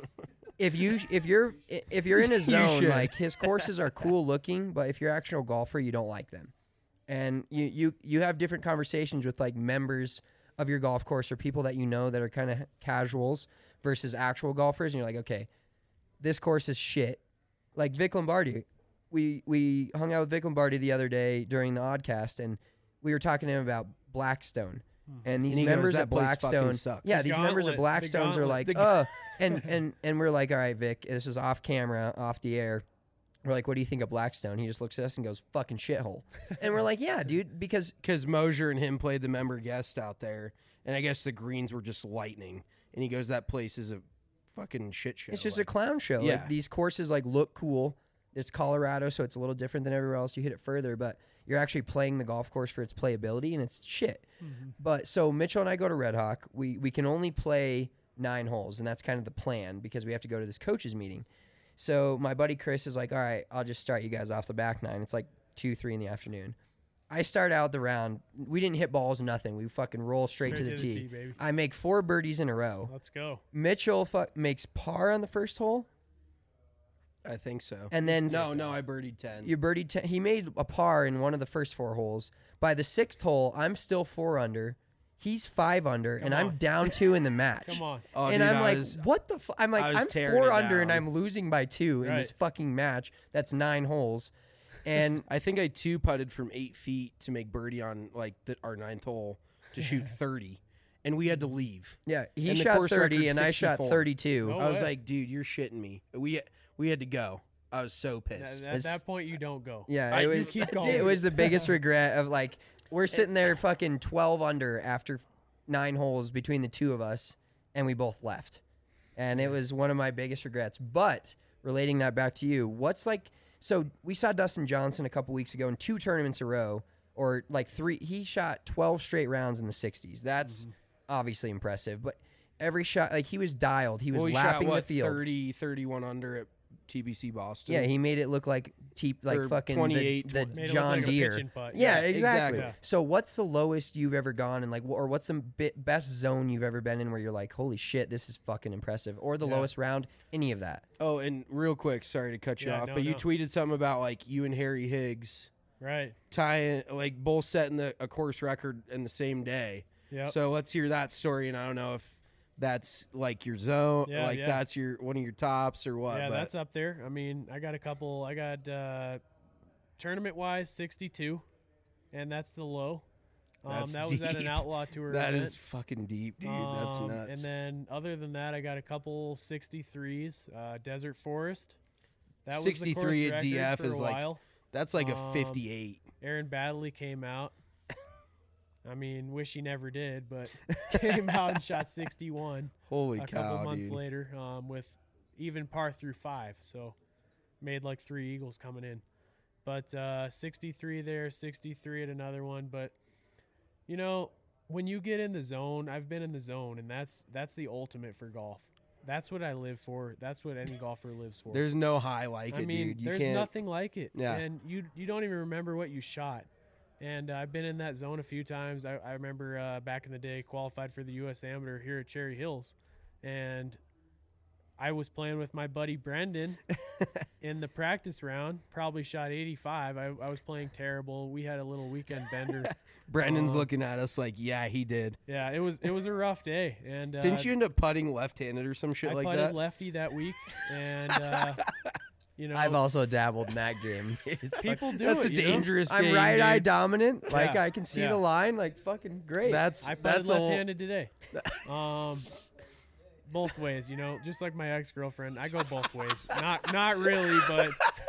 if you if you're if you're in a zone, should. like his courses are cool looking, but if you're an actual golfer, you don't like them. And you you you have different conversations with like members of your golf course or people that you know that are kind of casuals versus actual golfers, and you're like, okay, this course is shit. Like Vic Lombardi, we we hung out with Vic Lombardi the other day during the Oddcast, and we were talking to him about Blackstone. And these And he goes, members "That at place fucking Blackstone, sucks." yeah, these members at Gauntlet, the Blackstones are gauntlet. like, The oh, and and and we're like, all right, Vic, this is off camera, off the air. We're like, what do you think of Blackstone? He just looks at us and goes, fucking shithole. And we're like, yeah, dude, because because Mosier and him played the member guest out there, and I guess the greens were just lightning. And he goes, "That place is a fucking shit show." it's just like, a clown show. Yeah. Like these courses like look cool. It's Colorado, so it's a little different than everywhere else. You hit it further, but you're actually playing the golf course for its playability, and it's shit. But so Mitchell and I go to Red Hawk. We we can only play nine holes, and that's kind of the plan because we have to go to this coaches meeting. So my buddy Chris is like, all right, I'll just start you guys off the back nine. It's like two, three in the afternoon. I start out the round. We didn't hit balls, nothing. We fucking roll straight, to the tee. baby. I make four birdies in a row. Let's go. Mitchell fu- makes par on the first hole, I think so. And then no, no, I birdied ten. you birdied ten. He made a par in one of the first four holes. By the sixth hole, I'm still four under. He's five under, Come and I'm on. down two in the match. Come on. Oh, and dude, I'm I like, was- what the? Fu-? I'm like, I was I'm tearing four it under, and down. I'm losing by two in Right. this fucking match. That's nine holes, and I think I two putted from eight feet to make birdie on like the, our ninth hole to shoot thirty, and we had to leave. yeah, he And the shot course thirty, record's and I shot sixty-four. thirty-two. No I was way. like, dude, you're shitting me. We we had to go. I was so At, pissed. at It's- that point, you don't go. Yeah, I- it you was. keep It going. was the biggest regret of like we're sitting there fucking twelve under after nine holes between the two of us, and we both left, and it was one of my biggest regrets. But relating that back to you, what's like? So we saw Dustin Johnson a couple weeks ago in two tournaments in a row, or like three. He shot twelve straight rounds in the sixties. That's obviously impressive, but every shot, like he was dialed. He was well, he lapping shot, what, the field. thirty, thirty-one under at T B C Boston. Yeah, he made it look like te- like Or fucking twenty-eight, the, the Made it look John like a Deere. pitching putt. Yeah, Yeah, exactly. exactly. So, what's the lowest you've ever gone, and like, wh- or what's the bit best zone you've ever been in where you're like, holy shit, this is fucking impressive, or the Yeah. lowest round, any of that? Oh, and real quick, sorry to cut you Yeah, off, no, but you no. tweeted something about like you and Harry Higgs Right. tying, like both setting the, a course record in the same day. Yep. So let's hear that story, and I don't know if that's like your zone, Yeah, like yeah. that's your one of your tops or what. yeah, but that's up there. I mean, I got a couple. I got uh, tournament wise sixty-two, and that's the low. Um, That's that was at an deep. outlaw tour. that event. is fucking deep, dude. that's Um, nuts. And then other than that, I got a couple sixty-threes. Uh, Desert Forest. That was the course sixty-three at record D F for is a like while. that's like a um, fifty-eight. Aaron Baddeley came out. I mean, wish he never did, but came out and shot sixty-one Holy a cow, couple months dude. later um, with even par through five. So made like three eagles coming in. But uh, sixty-three there, sixty-three at another one. But, you know, when you get in the zone, I've been in the zone, and that's that's the ultimate for golf. That's what I live for. That's what any golfer lives for. There's no high like I it, mean, dude. You there's can't. nothing like it. Yeah. And you you don't even remember what you shot. And uh, I've been in that zone a few times. I, I remember uh, back in the day, qualified for the U S Amateur here at Cherry Hills, and I was playing with my buddy Brendan in the practice round. Probably shot eighty-five. I, I was playing terrible. We had a little weekend bender. Brandon's Um, looking at us like, yeah, he did. Yeah, it was it was a rough day. And uh, Didn't you end up putting left-handed or some shit I like putted that? lefty that week, and uh, you know, I've also dabbled in that game. It's people do That's it. a you know? dangerous I'm game, right eye dude. dominant. Like Yeah. I can see Yeah. the line. Like fucking great. That's I putted that's a whole- left-handed today. Um, both ways, you know, just like my ex-girlfriend, I go both ways. Not not really, but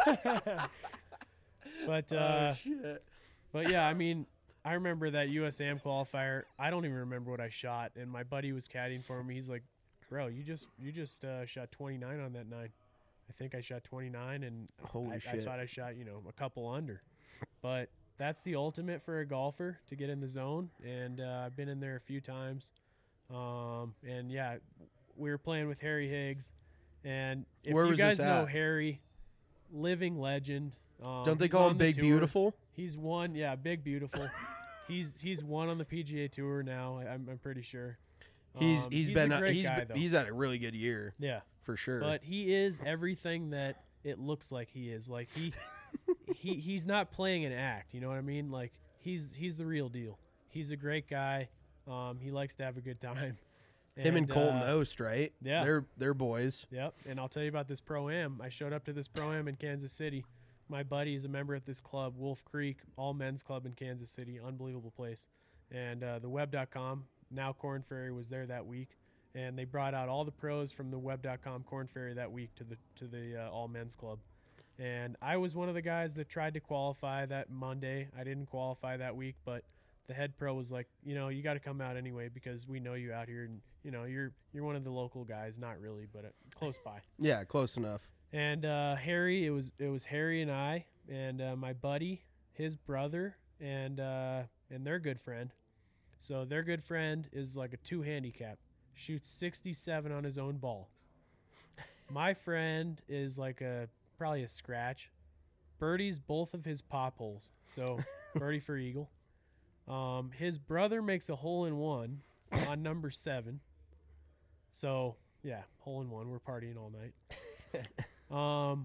but uh, but yeah, I mean, I remember that U S A M qualifier. I don't even remember what I shot, and my buddy was caddying for me. He's like, "Bro, you just you just uh, shot twenty-nine on that nine." I think I shot twenty-nine, and Holy I, I shit. thought I shot, you know, a couple under. But that's the ultimate for a golfer, to get in the zone, and uh, I've been in there a few times. Um, and yeah, we were playing with Harry Higgs, and if Where you was guys this know at? Harry, living legend. Um, Don't they he's call on him the Big tour. Beautiful? He's won, yeah, Big Beautiful. he's he's won on the P G A Tour now. I- I'm I'm pretty sure. He's Um, he's been a great he's guy, been- though. he's had a really good year yeah. for sure. But he is everything that it looks like he is. Like he he he's not playing an act, you know what I mean? Like he's he's the real deal. He's a great guy. Um, he likes to have a good time. Him and Colton uh, Ost, right? yeah. they're they're boys. Yep. And I'll tell you about this pro-am. I showed up to this pro-am in Kansas City. My buddy is a member at this club, Wolf Creek, all men's club in Kansas City. Unbelievable place. And uh, the web dot com, now Corn Ferry, was there that week. And they brought out all the pros from the web dot com Corn Ferry that week to the to the uh, all men's club. And I was one of the guys that tried to qualify that Monday. I didn't qualify that week, but the head pro was like, you know, you got to come out anyway because we know you out here, and you know, you're you're one of the local guys, not really, but uh, close by. Yeah, close enough. And uh, Harry, it was it was Harry and I, and uh, my buddy, his brother, and uh, and their good friend. So their good friend is like a two handicap, shoots sixty-seven on his own ball. My friend is like a probably a scratch, birdies both of his pop holes, so birdie for eagle. Um, his brother makes a hole in one on number seven. So yeah, hole in one. We're partying all night. Um,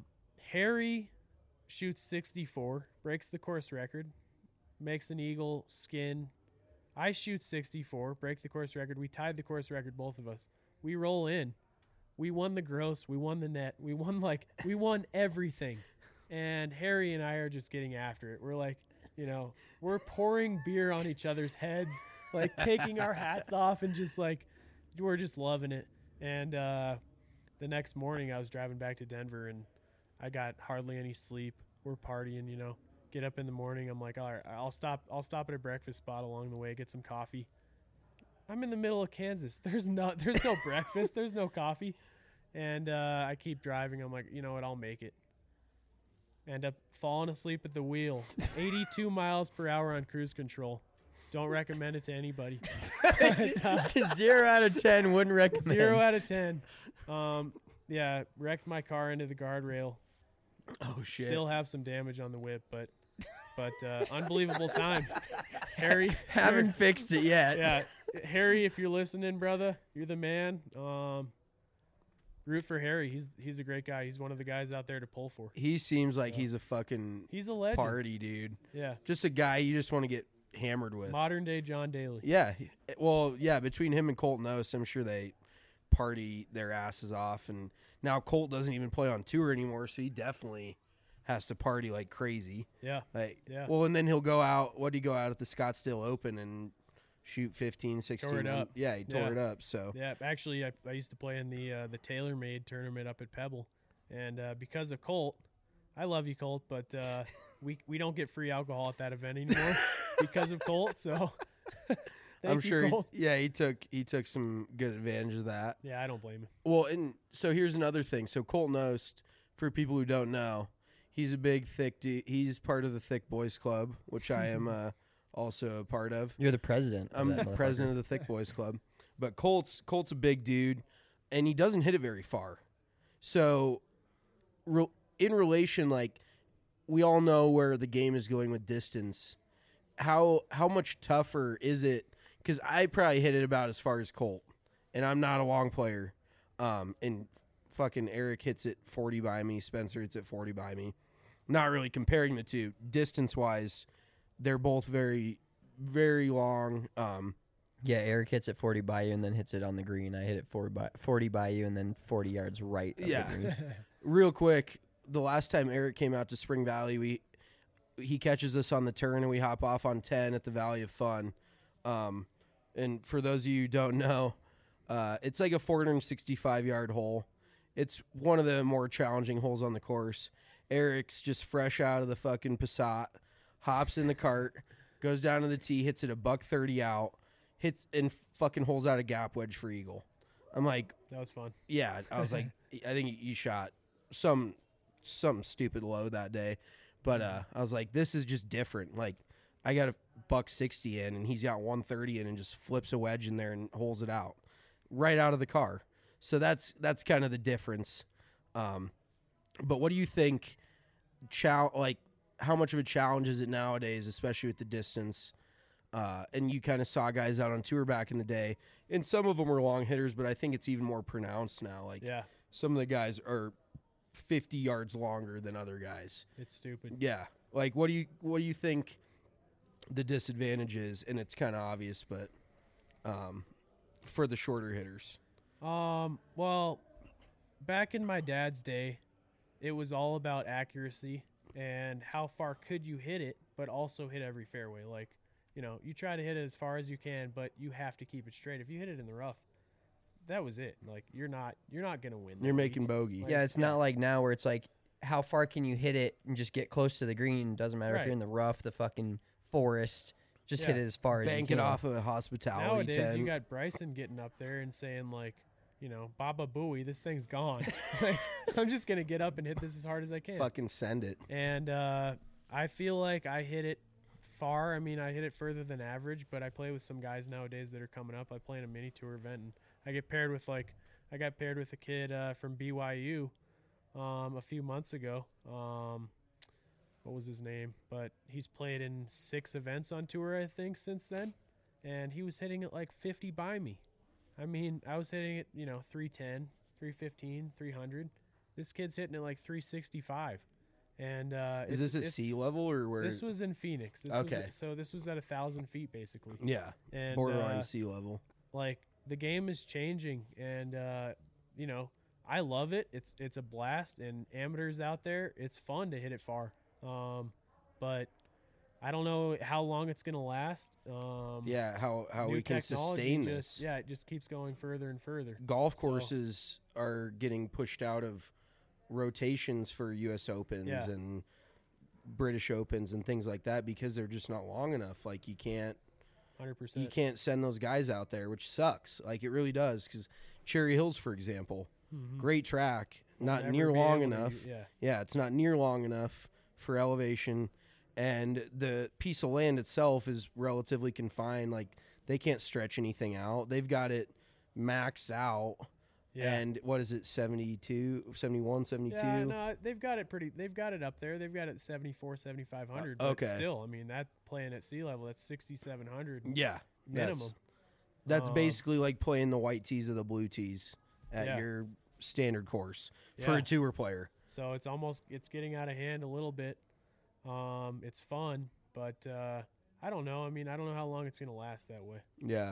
Harry shoots sixty-four, breaks the course record, makes an eagle skin. I shoot sixty-four, break the course record. We tied the course record, both of us. We roll in. We won the gross. We won the net. We won like we won everything. And Harry and I are just getting after it. We're like, you know, we're pouring beer on each other's heads, like taking our hats off and just like we're just loving it. And uh, the next morning I was driving back to Denver and I got hardly any sleep. We're partying, you know. Get up in the morning. I'm like, all right, I'll stop. I'll stop at a breakfast spot along the way, get some coffee. I'm in the middle of Kansas. There's no, there's no breakfast. There's no coffee, and uh, I keep driving. I'm like, you know what? I'll make it. End up falling asleep at the wheel. eighty-two miles per hour on cruise control. Don't recommend it to anybody. But, uh, Zero out of ten wouldn't recommend. Zero out of ten. Um, yeah, wrecked my car into the guardrail. Oh shit! Still have some damage on the whip, but but uh, unbelievable time. Harry, Haven't Harry- fixed it yet. yeah, Harry, if you're listening, brother, you're the man. Um, root for Harry. He's he's a great guy. He's one of the guys out there to pull for. He seems like he's a fucking He's a legend. party dude. Yeah, Just a guy you just want to get hammered with. modern day John Daly. Yeah. he- Well, yeah, between him and Colt Knost, I'm sure they party their asses off. And now Colt doesn't even play on tour anymore, so he definitely has to party like crazy. Yeah, Like, Yeah. Well, and then he'll go out. What did he go out at the Scottsdale Open and shoot fifteen, sixteen? Tore it up. Yeah, he tore Yeah. it up. So yeah. Actually, I, I used to play in the uh, the TaylorMade tournament up at Pebble, and uh, because of Colt, I love you, Colt, but uh, we we don't get free alcohol at that event anymore because of Colt. So thank I'm you, sure. He, Colt. yeah, he took he took some good advantage of that. Yeah, I don't blame him. Well, and so here's another thing. So Colt Knost, for people who don't know, he's a big, thick dude. He's part of the Thick Boys Club, which I am uh, also a part of. You're the president. of I'm that motherfucker. president of the Thick Boys Club. But Colt's Colt's a big dude, and he doesn't hit it very far. So, re- in relation, like, we all know where the game is going with distance. How how much tougher is it? Because I probably hit it about as far as Colt, and I'm not a long player. Um, and fucking Eric hits it forty by me. Spencer hits it forty by me. Not really comparing the two distance wise. They're both very, very long. Um, Yeah, Eric hits it forty by you and then hits it on the green. I hit it forty by, forty by you and then forty yards right of Yeah. the green. real quick, the last time Eric came out to Spring Valley, we he catches us on the turn and we hop off on ten at the Valley of Fun. Um, and for those of you who don't know, uh, it's like a four hundred sixty-five yard hole. It's one of the more challenging holes on the course. Eric's just fresh out of the fucking Passat, hops in the cart, goes down to the tee, hits it a buck thirty out, hits and fucking holes out a gap wedge for eagle. I'm like, That was fun. yeah, I was like, I think you shot some something stupid low that day, but uh, I was like, this is just different. Like, I got a buck sixty in, and he's got one thirty in, and just flips a wedge in there and holes it out right out of the car. So that's that's kind of the difference. Um, but what do you think? Chal- like, how much of a challenge is it nowadays, especially with the distance? Uh, and you kind of saw guys out on tour back in the day, and some of them were long hitters, but I think it's even more pronounced now. Like, Yeah, some of the guys are fifty yards longer than other guys. it's stupid. Yeah. Like, what do you what do you think the disadvantage is? And it's kind of obvious, but um, for the shorter hitters. Um, well, back in my dad's day, it was all about accuracy and how far could you hit it, but also hit every fairway. Like, you know, you try to hit it as far as you can, but you have to keep it straight. If you hit it in the rough, that was it. Like, you're not you're not gonna win. You're that making week. bogey. Yeah, it's not like now where it's like, how far can you hit it and just get close to the green? Doesn't matter if Right. you're in the rough, the fucking forest. Just hit Yeah. it as far as Bank you it can. off of a hospitality Nowadays, ten. you got Bryson getting up there and saying like, you know, Baba Booey, this thing's gone. Like, I'm just gonna get up and hit this as hard as I can. Fucking send it. And uh, I feel like I hit it far. I mean, I hit it further than average, but I play with some guys nowadays that are coming up. I play in a mini tour event, and I get paired with like, I got paired with a kid uh, from B Y U um, a few months ago. Um, what was his name? But he's played in six events on tour, I think, since then. And he was hitting it like fifty by me. I mean, I was hitting it, you know, three ten, three fifteen, three hundred. This kid's hitting it like three sixty-five. And uh, Is it's, this at it's, sea level or where? This was in Phoenix. This Okay. Was, so this was at a thousand feet basically. yeah, And borderline uh, sea level. like the game is changing, and uh, you know, I love it. It's it's a blast, and amateurs out there, it's fun to hit it far. Um, but I don't know how long it's gonna last. Um, Yeah, how how new we can technology sustain just, this. Yeah, it just keeps going further and further. Golf So- courses are getting pushed out of rotations for U S Opens Yeah. and British Opens and things like that because they're just not long enough. Like you can't Hundred percent. you can't send those guys out there, which sucks. Like it really does because Cherry Hills, for example, great track, not never near be long able to enough. u- yeah. yeah, it's not near long enough for elevation, and the piece of land itself is relatively confined. Like they can't stretch anything out. They've got it maxed out. Yeah. And what is it, seventy-two, seventy-one, seventy-two? Yeah, no, they've got it pretty. They've got it up there. They've got it seventy-four, seventy-five hundred. Uh, but okay. still, I mean, that playing at sea level, that's sixty-seven hundred Yeah, minimum. That's, that's Um, basically like playing the white tees or the blue tees at Yeah. your standard course for Yeah. a tour player. So it's almost it's getting out of hand a little bit. Um, it's fun, but uh, I don't know. I mean, I don't know how long it's gonna last that way. Yeah.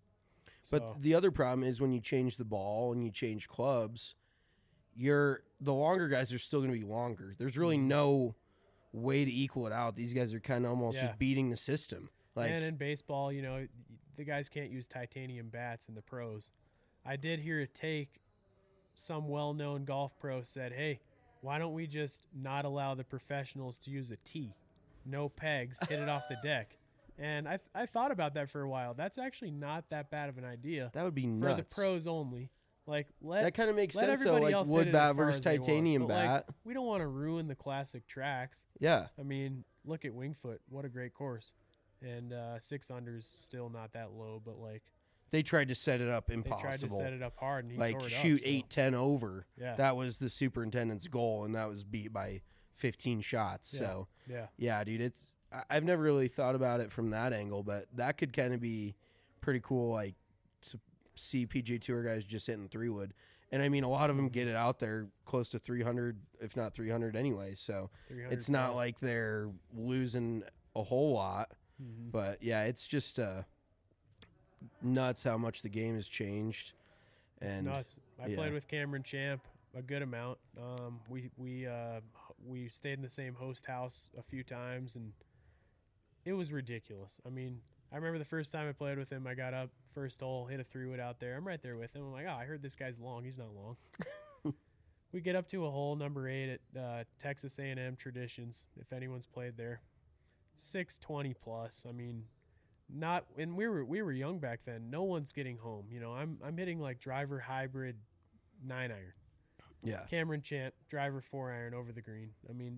So, But the other problem is when you change the ball and you change clubs, you're the longer guys are still going to be longer. There's really no way to equal it out. These guys are kind of almost Yeah. just beating the system. Like and in baseball, you know, the guys can't use titanium bats in the pros. I did hear a take. Some well-known golf pro said, "Hey, why don't we just not allow the professionals to use a tee? No pegs, hit it off the deck." And I th- I thought about that for a while. That's actually not that bad of an idea that would be for nuts. the pros only. Like let That kind of makes let sense though, everybody like else hit wood it bat as far versus as they want. titanium But, like, bat. we don't want to ruin the classic tracks. Yeah. I mean, look at Wingfoot. What a great course. And uh, six under's still not that low, but like They tried to set it up they impossible. tried to set it up hard and he like tore it shoot up, so- eight ten over. Yeah. That was the superintendent's goal, and that was beat by fifteen shots. Yeah. So Yeah. yeah, dude, it's I- I've never really thought about it from that angle, but that could kind of be pretty cool. Like to see P G A Tour guys just hitting three wood, and I mean a lot of them get it out there close to three hundred, if not three hundred anyway. So three hundred it's not plus. like they're losing a whole lot. Mhm. But yeah, it's just uh, nuts how much the game has changed. It's And nuts. I yeah. played with Cameron Champ a good amount. Um, we we uh, we stayed in the same host house a few times, and it was ridiculous. I mean, I remember the first time I played with him, I got up first hole, hit a three wood out there. I'm right there with him. I'm like, oh, I heard this guy's long. He's not long. We get up to a hole number eight at uh, Texas A and M Traditions. If anyone's played there, six twenty plus. I mean, not and we were we were young back then. No one's getting home. You know, I'm I'm hitting like driver hybrid nine iron. yeah, Cameron Champ driver four iron over the green. I mean,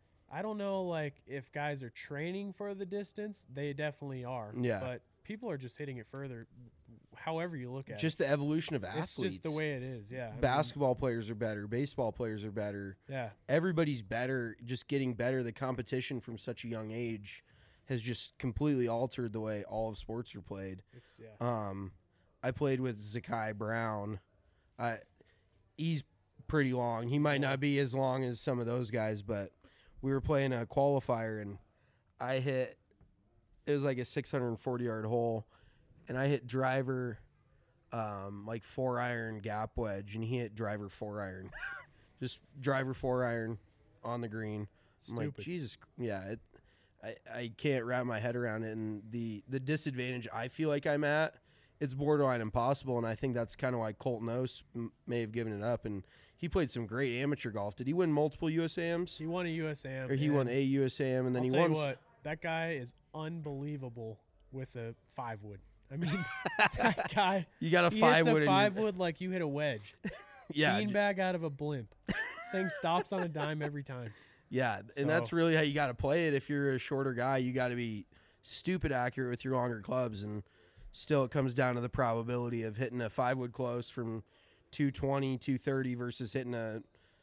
I don't know like if guys are training for the distance. They definitely are. Yeah. But people are just hitting it further. However you look at just the evolution of it, athletes. it's just the way it is. Yeah. I mean, Basketball players are better. Baseball players are better. yeah. Everybody's better. Just getting better. The competition from such a young age has just completely altered the way all of sports are played. It's yeah. Um, I played with Zakai Brown. I he's pretty long. He might not be as long as some of those guys, but we were playing a qualifier and I hit. It was like a six hundred forty yard hole, and I hit driver, um, like four iron gap wedge, and he hit driver four iron, just driver four iron on the green. I'm like, Stupid. Jesus, yeah, it, I I can't wrap my head around it, and the the disadvantage I feel like I'm at, it's borderline impossible, and I think that's kind of why Colton Oast m- may have given it up, and he played some great amateur golf. Did he win multiple U S A Ms? He won a U S A M. Or he and won a U S A M, and then I'll he tell won. you s- what, that guy is unbelievable with a five wood. I mean, that guy. You got a he five hits wood. a in your- five wood like you hit a wedge. Yeah, j- Beanbag out of a blimp. Thing stops on a dime every time. yeah, and that's So- really how you got to play it. If you're a shorter guy, you got to be stupid accurate with your longer clubs, and still it comes down to the probability of hitting a five wood close from two twenty, two thirty versus hitting a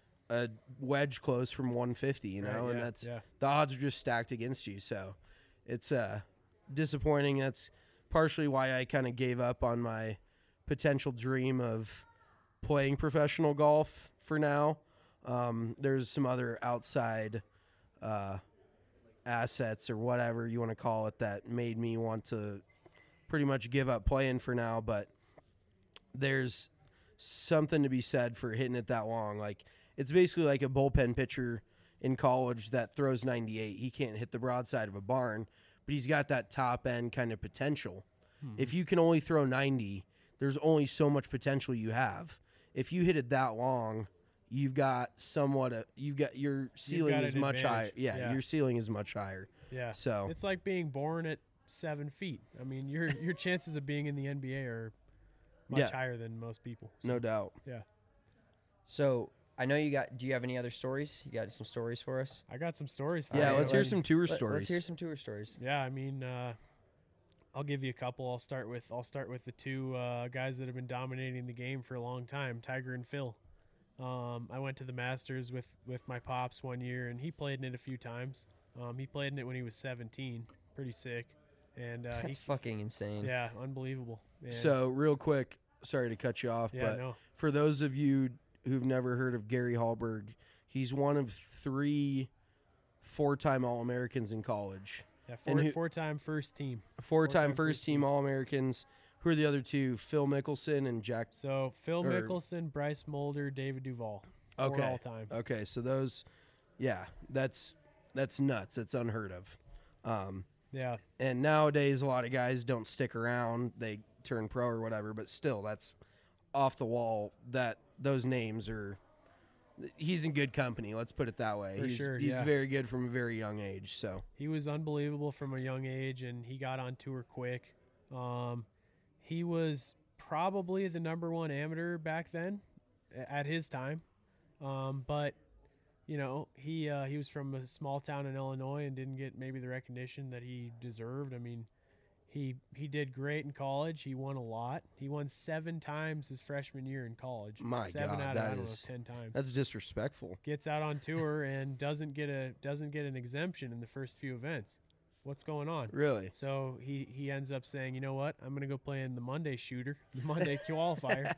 a wedge close from one fifty. You know, Right, and yeah, that's yeah. the odds are just stacked against you. So it's uh, disappointing. That's partially why I kind of gave up on my potential dream of playing professional golf for now. Um, there's some other outside uh, assets or whatever you want to call it that made me want to pretty much give up playing for now. But there's something to be said for hitting it that long. Like, it's basically like a bullpen pitcher in college that throws ninety-eight. He can't hit the broadside of a barn, but he's got that top end kind of potential. Hmm. If you can only throw ninety, there's only so much potential you have. If you hit it that long, you've got somewhat a, you've got your ceiling got is an much higher. advantage. Yeah, Yeah. your ceiling is much higher. Yeah. So It's like being born at seven feet. I mean, your your chances of being in the N B A are much Yeah. higher than most people. So, no doubt. Yeah. So I know you got. Do you have any other stories? You got some stories for us? I got some stories for Yeah, you. let's let- hear some tour Let, stories. Let's hear some tour stories. Yeah, I mean, uh, I'll give you a couple. I'll start with I'll start with the two uh, guys that have been dominating the game for a long time, Tiger and Phil. Um, I went to the Masters with, with my pops one year, and he played in it a few times. Um, he played in it when he was seventeen, pretty sick, and uh, he, That's fucking insane. yeah, unbelievable. And So real quick, sorry to cut you off, yeah, but no, for those of you who've never heard of Gary Hallberg, he's one of three four-time All-Americans in college. yeah, and four, who- four-time first team. Four-time Four-time first first-team team. All-Americans. Who are the other two? Phil Mickelson and Jack. So Phil Or- Mickelson, Bryce Mulder, David Duval, four Okay. all-time. Okay, so those, yeah, that's that's nuts. That's unheard of. Um, Yeah, and nowadays, a lot of guys don't stick around. They turn pro or whatever, but still, that's off the wall. That those names are. He's in good company. Let's put it that way. For he's, sure, He's yeah. very good from a very young age. So he was unbelievable from a young age, and he got on tour quick. Um, he was probably the number one amateur back then, a- at his time. Um, but you know, he uh, he was from a small town in Illinois and didn't get maybe the recognition that he deserved. I mean, he he did great in college. He won a lot. He won seven times his freshman year in college. My seven God, out of that I don't is- know ten times. that's disrespectful. Gets out on tour and doesn't get a doesn't get an exemption in the first few events. What's going on? Really? So he, he ends up saying, you know what, I'm going to go play in the Monday shooter, the Monday qualifier.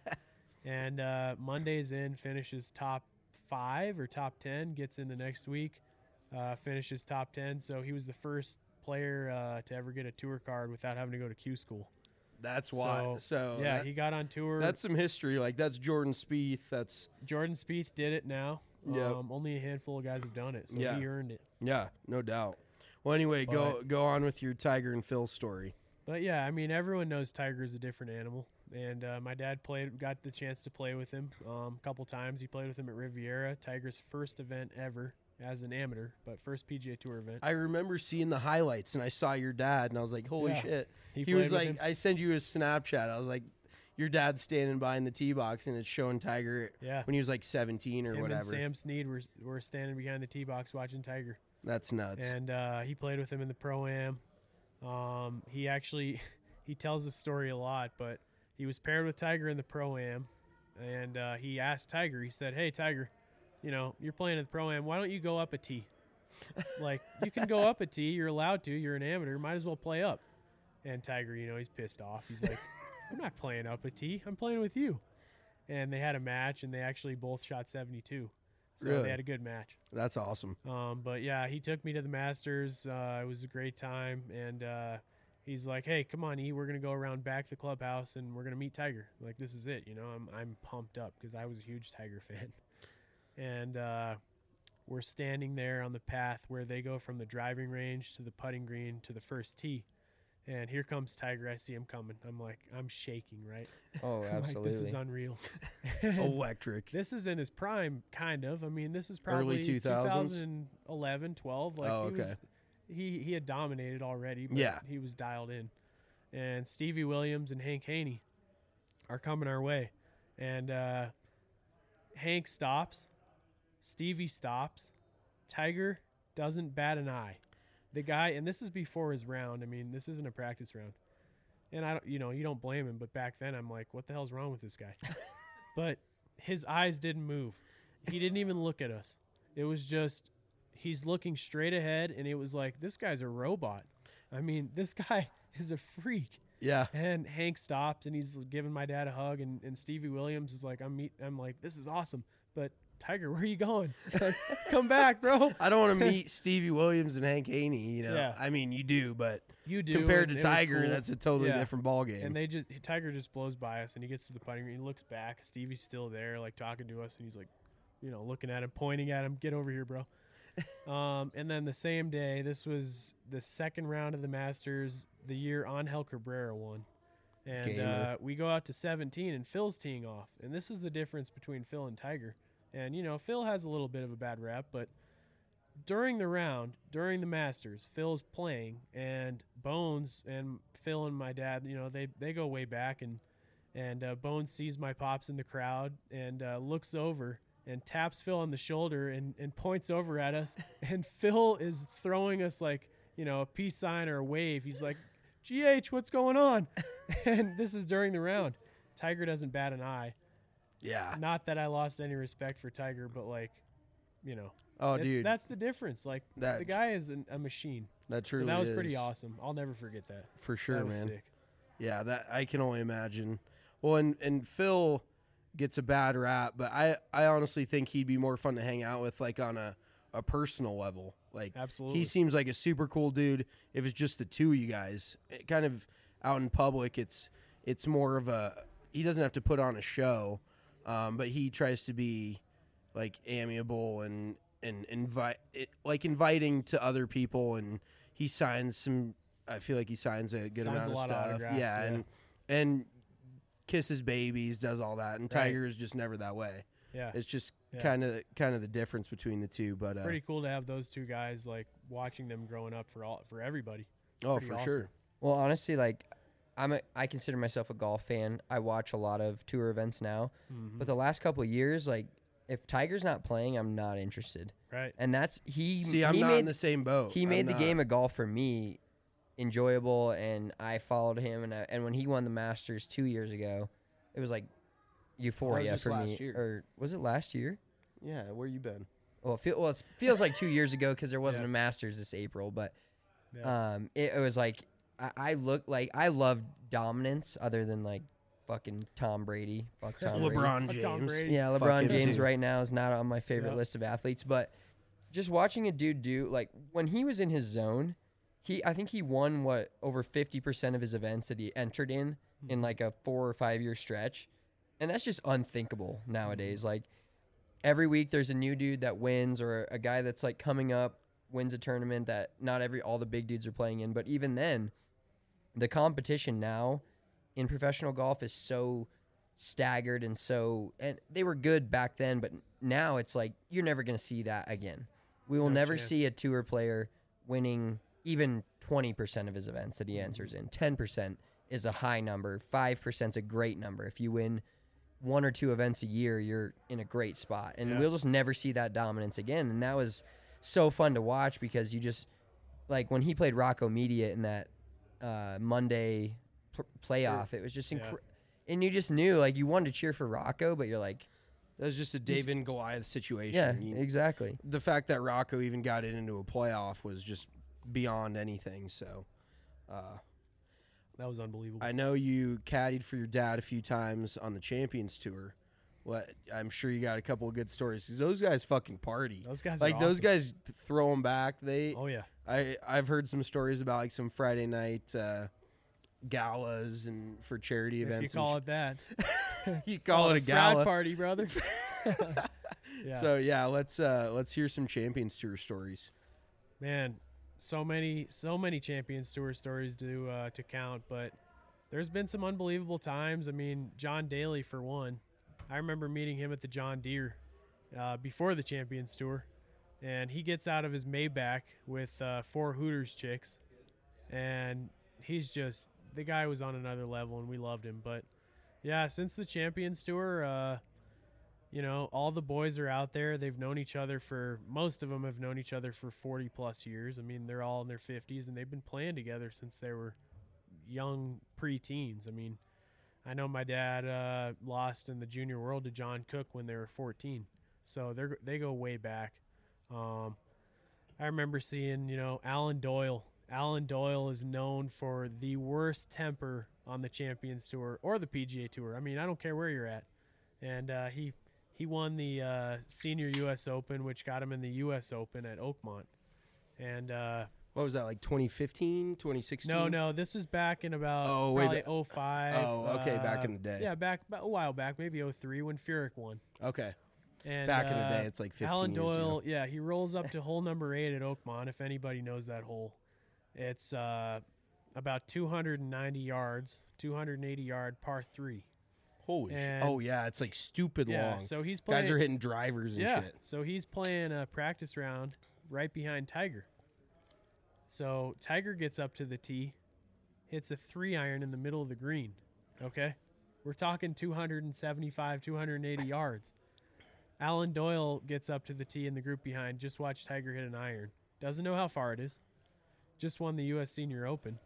And uh, Monday's in, finishes top five or top ten, gets in the next week, uh, finishes top ten. So he was the first player uh, to ever get a tour card without having to go to Q school. That's why. So, So, yeah, that- he got on tour. that's some history. Like that's Jordan Spieth. That's Jordan Spieth did it now. Yep. Um, only a handful of guys have done it, so Yeah. he earned it. yeah, no doubt. Well, anyway, go go on with your Tiger and Phil story. But yeah, I mean, everyone knows Tiger's a different animal, and uh, my dad played, got the chance to play with him um, a couple times. He played with him at Riviera, Tiger's first event ever as an amateur, but first P G A Tour event. I remember seeing the highlights, and I saw your dad, and I was like, "Holy Yeah. shit!" He He, was played with like, him. "I sent you a Snapchat." I was like, "Your dad's standing behind the tee box, and it's showing Tiger Yeah, when he was like seventeen or him whatever." and Sam Snead were were standing behind the tee box watching Tiger, That's nuts. and uh, he played with him in the Pro Am. Um, he actually he tells the story a lot, but he was paired with Tiger in the Pro Am, and uh, he asked Tiger. He said, "Hey, Tiger, you know you're playing at the Pro Am. Why don't you go up a tee? Like you can go up a tee. You're allowed to. You're an amateur. Might as well play up." And Tiger, you know, he's pissed off. He's like, "I'm not playing up a tee. I'm playing with you." And they had a match, and they actually both shot seventy-two. So Really? they had a good match. That's awesome. Um, but yeah, he took me to the Masters. Uh, it was a great time, and uh, he's like, "Hey, come on, E. We're gonna go around back the clubhouse, and we're gonna meet Tiger. Like this is it, you know." I'm I'm pumped up because I was a huge Tiger fan, and uh, we're standing there on the path where they go from the driving range to the putting green to the first tee, and here comes Tiger. I see him coming. I'm like, I'm shaking, right? Oh, I'm absolutely. like, this is unreal. Electric. This is in his prime, kind of. I mean, this is probably Early two thousands? twenty eleven, twelve. Like Oh, he was, okay. he he had dominated already, but Yeah. he was dialed in. And Stevie Williams and Hank Haney are coming our way, and uh, Hank stops, Stevie stops, Tiger doesn't bat an eye. The guy, and this is before his round. I mean, this isn't a practice round. And I don't, you know, you don't blame him, but back then I'm like, what the hell's wrong with this guy? But his eyes didn't move. He didn't even look at us. It was just, he's looking straight ahead, and it was like, this guy's a robot. I mean, this guy is a freak. Yeah. And Hank stops and he's giving my dad a hug, and, and Stevie Williams is like, I'm meet, I'm like, this is awesome, but Tiger, where are you going? Come back, bro. I don't want to meet Stevie Williams and Hank Haney. You know, Yeah. I mean, you do, but You do. compared and to it was Tiger, cool. that's a totally Yeah. different ball game. And they just Tiger just blows by us, and he gets to the putting green. He looks back. Stevie's still there, like talking to us, and he's like, you know, looking at him, pointing at him. Get over here, bro. um, and then the same day, this was the second round of the Masters, the year Angel Cabrera won. And Gamer. uh, we go out to seventeen, and Phil's teeing off. And this is the difference between Phil and Tiger. And, you know, Phil has a little bit of a bad rap, but during the round, during the Masters, Phil's playing, and Bones and Phil and my dad, you know, they, they go way back, and and uh, Bones sees my pops in the crowd and uh, looks over and taps Phil on the shoulder and, and points over at us, and Phil is throwing us like, you know, a peace sign or a wave. He's like, G H, what's going on? And this is during the round. Tiger doesn't bat an eye. yeah. Not that I lost any respect for Tiger, but like, you know, Oh, it's- dude, that's the difference. Like That- the guy is an, a machine. that truly so that was is. pretty awesome. I'll never forget that. For sure, that was man. sick. Yeah, that I can only imagine. Well, and, and Phil gets a bad rap, but I, I honestly think he'd be more fun to hang out with, like on a, a personal level. Like Absolutely. he seems like a super cool dude. If it's just the two of you guys, it kind of out in public, it's it's more of a he doesn't have to put on a show, um, but he tries to be like amiable and and invite it, like inviting to other people, and he signs some. I feel like he signs a good Signs amount a of lot of stuff. autographs, yeah, yeah. and and kisses babies, does all that, and Right. Tiger is just never that way. Yeah. It's just Yeah. kind of kind of the difference between the two. But uh, Pretty cool to have those two guys, like watching them growing up for all for everybody. oh, pretty for awesome. sure. Well, honestly, like I'm a, I consider myself a golf fan. I watch a lot of tour events now, Mm-hmm. but the last couple of years, like if Tiger's not playing, I'm not interested. Right. And that's he. See, I'm he not made, in the same boat. He I'm made the not. game of golf for me enjoyable, and I followed him. And I, and when he won the Masters two years ago, it was like euphoria just for last me. year. Or was it last year? Yeah, where you been? Well, it feel, well, it feels like two years ago because there wasn't Yeah. a Masters this April, but Yeah. um, it, it was like I, I look like I love dominance other than like fucking Tom Brady. Fuck Tom Brady. LeBron Fuck James. Tom Brady. Yeah, Fuck LeBron him James too. right now is not on my favorite Yep. list of athletes, but just watching a dude do like when he was in his zone, he I think he won what over fifty percent of his events that he entered in Hmm. in like a four or five year stretch, and that's just unthinkable nowadays. Like every week there's a new dude that wins, or a guy that's like coming up wins a tournament that not every all the big dudes are playing in, but even then, the competition now in professional golf is so staggered and so and they were good back then, but now it's like you're never going to see that again. We will No never chance. see a tour player winning even twenty percent of his events that he enters in. ten percent is a high number, five percent is a great number. If you win one or two events a year, you're in a great spot, and Yeah. we'll just never see that dominance again. And that was so fun to watch because you just like when he played Rocco Media in that uh, Monday pl- playoff, it was just Yeah. incredible. And you just knew, like, you wanted to cheer for Rocco, but you're like, That was just a David and Goliath situation. yeah, You- exactly. the fact that Rocco even got it into a playoff was just beyond anything. So, uh, That was unbelievable. I know you caddied for your dad a few times on the Champions Tour. What I'm sure you got a couple of good stories because those guys fucking party. Those guys are like those awesome. guys th- throw them back. They, oh yeah. I I've heard some stories about like some Friday night uh, galas and for charity If events. you call and it that. sh- you call it a frat gala. party, brother. yeah. So yeah, let's uh, let's hear some Champions Tour stories. Man, so many, so many Champions Tour stories to uh, to count, but there's been some unbelievable times. I mean, John Daly for one. I remember meeting him at the John Deere uh, before the Champions Tour, and he gets out of his Maybach with uh, four Hooters chicks, and he's just the guy was on another level, and we loved him. But yeah, since the Champions Tour, uh, you know, all the boys are out there. They've known each other for, most of them have known each other for forty plus years. I mean, they're all in their fifties and they've been playing together since they were young pre-teens. I mean, I know my dad uh, lost in the Junior World to John Cook when they were fourteen. So they're, they go way back. Um, I remember seeing, you know, Alan Doyle Alan Doyle is known for the worst temper on the Champions Tour or the P G A Tour. I mean, I don't care where you're at. And uh, he he won the uh, Senior U S Open, which got him in the U S Open at Oakmont. And uh, What was that, like twenty fifteen, twenty sixteen? no, no, this was back in about Oh, way probably ba- oh five. Oh, okay, back uh, in the day. Yeah, back about a while back, maybe oh three when Furyk won. Okay. And, Back in the uh, day, it's like fifteen Alan years ago. Doyle, yeah, he rolls up to hole number eight at Oakmont, if anybody knows that hole. It's uh, about two hundred ninety yards, two hundred eighty yard par three. Holy shit. And- Oh, yeah, it's like stupid Yeah, long. so he's playing. Guys are hitting drivers and yeah, shit. so he's playing a practice round right behind Tiger. So Tiger gets up to the tee, hits a three iron in the middle of the green. Okay, we're talking two hundred seventy-five, two hundred eighty yards. Alan Doyle gets up to the tee in the group behind. Just watch Tiger hit an iron. Doesn't know how far it is. Just won the U S Senior Open.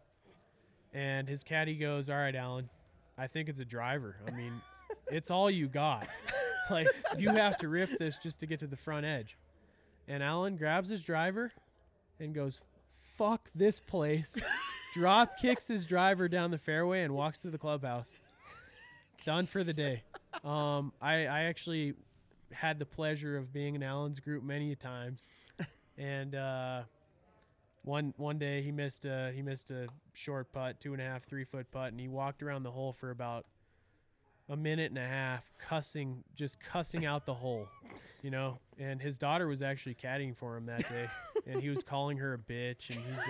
And his caddy goes, "All right, Alan, I think it's a driver. I mean, it's all you got. Like, you have to rip this just to get to the front edge." And Alan grabs his driver and goes, "Fuck this place." Drop kicks his driver down the fairway and walks to the clubhouse. Done for the day. Um, I, I actually had the pleasure of being in Alan's group many times, and uh, one one day he missed a he missed a short putt, two and a half, three foot putt, and he walked around the hole for about a minute and a half, cussing, just cussing out the hole, you know. And his daughter was actually caddying for him that day, and he was calling her a bitch, and he's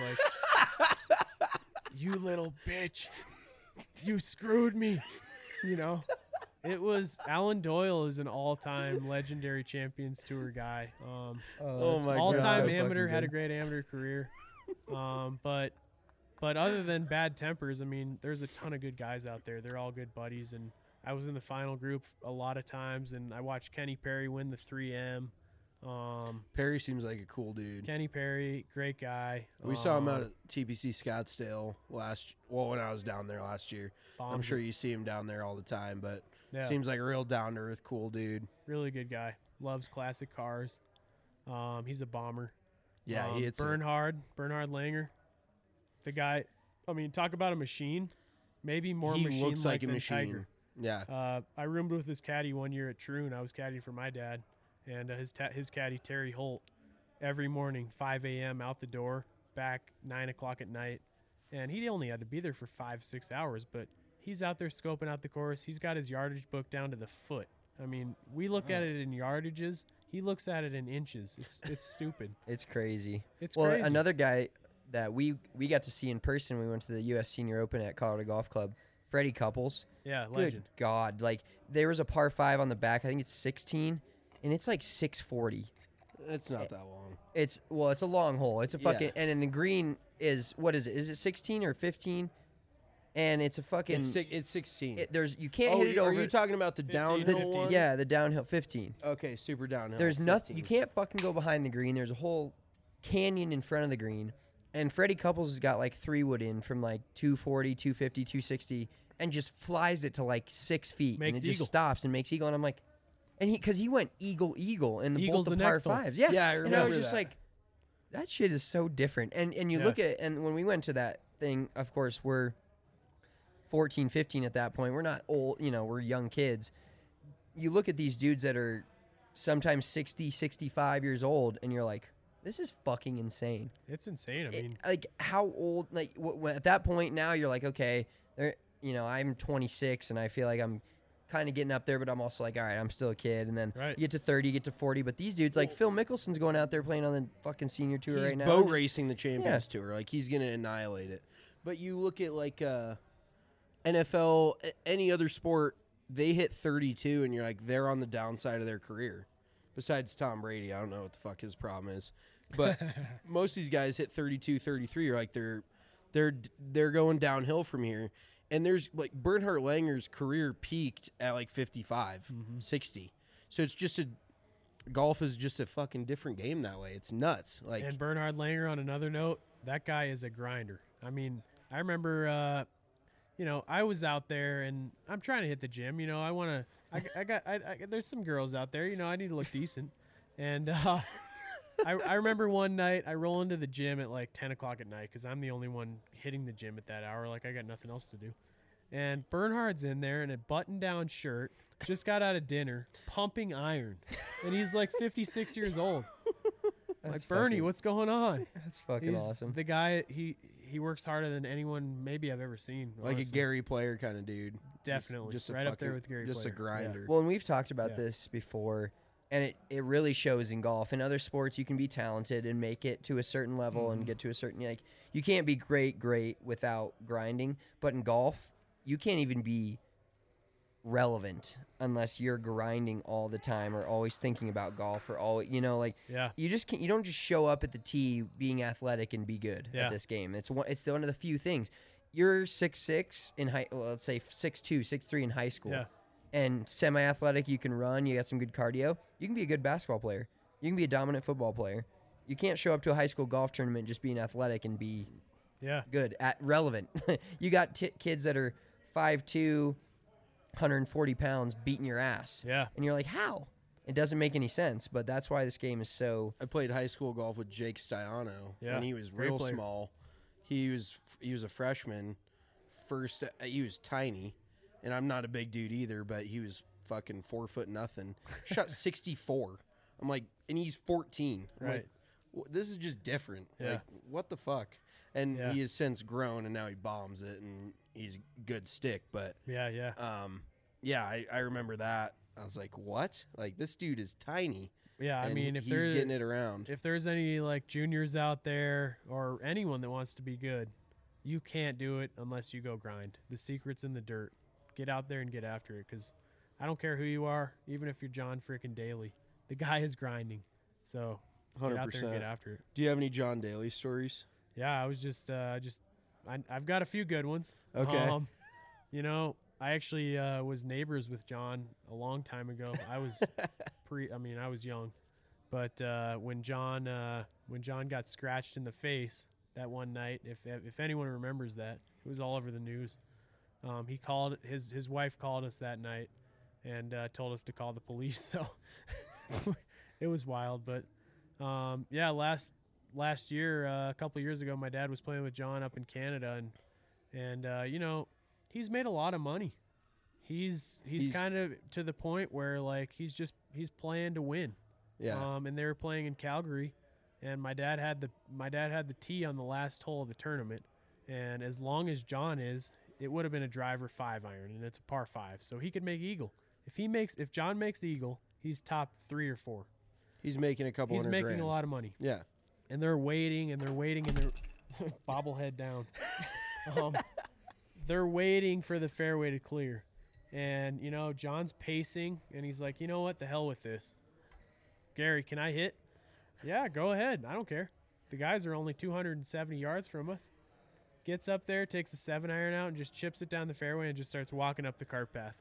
like, "You little bitch, you screwed me," you know. It was Alan Doyle is an all-time legendary Champions Tour guy. Um, Oh, my God. all-time So amateur, fucking had a good. great amateur career. Um, but but other than bad tempers, I mean, there's a ton of good guys out there. They're all good buddies, and I was in the final group a lot of times, and I watched Kenny Perry win the three M. Um, Perry seems like a cool dude. Kenny Perry, great guy. We saw him Um, out at T P C Scottsdale last. Well, when I was down there last year, I'm bombs sure it. you see him down there all the time. But Yeah. seems like a real down to earth, cool dude. Really good guy. Loves classic cars. Um, he's a bomber. Yeah, um, he hits it. Bernhard, Bernhard Langer. The guy, I mean, talk about a machine. Maybe more He machine looks like a than machine. Tiger. Yeah, Uh, I roomed with his caddy one year at Troon. I was caddying for my dad, and uh, his ta- his caddy Terry Holt. Every morning, five a.m. out the door, back nine o'clock at night, and he only had to be there for five six hours. But he's out there scoping out the course. He's got his yardage book down to the foot. I mean, we look at it in yardages. He looks at it in inches. It's it's stupid. It's crazy. It's well, crazy. another guy that we we got to see in person. We went to the U S Senior Open at Colorado Golf Club. Freddie Couples. Yeah, Good legend. God, like there was a par five on the back. I think it's sixteen, and it's like six forty. it's not that long. It's well, it's a long hole. It's a Yeah. fucking and then the green is what is it? Is it sixteen or fifteen? And it's a fucking. It's six, it's sixteen. it, there's you can't oh, hit it are over. you talking about the fifteen, downhill fifteen. one? yeah, the downhill fifteen. Okay, super downhill. There's nothing. You fifteen. can't fucking go behind the green. There's a whole canyon in front of the green. And Freddie Couples has got like three wood in from like two forty, two fifty, two sixty, and just flies it to like six feet. Makes and it eagle. just stops and makes eagle. And I'm like, and he, because he went eagle, eagle in the Eagle's both the, the par next one. fives. Yeah. Yeah, I And I remember was just that. like, that shit is so different. And and you Yeah. look at, and when we went to that thing, of course, we're fourteen, fifteen at that point. We're not old, you know, we're young kids. You look at these dudes that are sometimes sixty, sixty-five years old, and you're like, this is fucking insane. It's insane. I It- mean, like how old? Like w- w- at that point now, you're like, okay, there. You know, I'm twenty-six, and I feel like I'm kind of getting up there, but I'm also like, all right, I'm still a kid. And then Right. you get to thirty, you get to forty, but these dudes, like Phil Mickelson's going out there playing on the fucking senior tour He's right now. boat and just- racing the Champions Tour. Like he's gonna annihilate it. But you look at like uh, N F L, a- any other sport, they hit thirty-two, and you're like they're on the downside of their career. Besides Tom Brady, I don't know what the fuck his problem is. But most of these guys hit thirty-two, thirty-three. You're like they're they're they're going downhill from here. And there's like Bernhard Langer's career peaked at like fifty-five, sixty. So it's just a golf is just a fucking different game that way. It's nuts. Like and Bernhard Langer, on another note, that guy is a grinder. I mean, I remember, uh, you know, I was out there and I'm trying to hit the gym. You know, I want to. I, I got. I, I, there's some girls out there. You know, I need to look decent, and uh, I, I remember one night I roll into the gym at like ten o'clock at night because I'm the only one hitting the gym at that hour. Like I got nothing else to do. And Bernhard's in there in a button-down shirt, just got out of dinner, pumping iron. And he's like fifty-six years old. Like, Bernie, fucking- what's going on? That's fucking He's awesome. The guy, he he works harder than anyone maybe I've ever seen. Like a honestly. Gary Player kind of dude. Definitely. Just, just a Right up there fucking- with Gary Just Player. a grinder. Well, and we've talked about Yeah. this before, and it, it really shows in golf. In other sports, you can be talented and make it to a certain level Mm-hmm. and get to a certain, like, you can't be great, great without grinding. But in golf, you can't even be relevant unless you're grinding all the time or always thinking about golf or all, you know, like, Yeah. you just can't, you don't just show up at the tee being athletic and be good Yeah. at this game. It's one, it's one of the few things. You're six six in high, well, let's say six two, six three in high school. Yeah. And semi-athletic, you can run, you got some good cardio, you can be a good basketball player. You can be a dominant football player. You can't show up to a high school golf tournament just being athletic and be Yeah. good, at relevant. You got t- kids that are five two, one hundred forty pounds beating your ass. Yeah. And you're like, how? It doesn't make any sense, but that's why this game is so... I played high school golf with Jake Stiano Yeah, when he was great real player. small. He was he was a freshman. First, uh, he was tiny, and I'm not a big dude either, but he was fucking four foot nothing. Shot sixty-four. I'm like, and he's fourteen. I'm Right. like, "W- this is just different. Yeah. Like, what the fuck? And Yeah. he has since grown, and now he bombs it, and he's a good stick. But Yeah. Yeah. um, yeah, I, I remember that. I was like, what? Like, this dude is tiny. Yeah. I and mean, if he's there's getting it around. if there's any like juniors out there or anyone that wants to be good, you can't do it unless you go grind. The secret's in the dirt. Get out there and get after it, because I don't care who you are, even if you're John frickin' Daly, the guy is grinding. So get out there and get after it. Do you have any John Daly stories? Yeah, I was just, uh, just, I, I've got a few good ones. Okay. Um, you know, I actually uh, was neighbors with John a long time ago. I was pre, I mean, I was young, but uh, when John, uh, when John got scratched in the face that one night, if if anyone remembers that, it was all over the news. Um, he called his his wife called us that night and uh, told us to call the police. So it was wild, but um, yeah, last last year, uh, a couple years ago, my dad was playing with John up in Canada, and and uh, you know, he's made a lot of money. He's he's, He's- kind of to the point where like he's just he's playing to win. Yeah. Um, and they were playing in Calgary, and my dad had the my dad had the tee on the last hole of the tournament, and as long as John is, it would have been a driver five iron, and it's a par five, so he could make eagle. If he makes if John makes eagle, he's top three or four. He's making a couple He's hundred making grand. a lot of money. Yeah. And they're waiting and they're waiting and they're bobblehead down. um, they're waiting for the fairway to clear. And, you know, John's pacing and he's like, you know what? The hell with this. Gary, can I hit? Yeah, go ahead. I don't care. The guys are only two hundred seventy yards from us. Gets up there, takes a seven iron out and just chips it down the fairway and just starts walking up the cart path.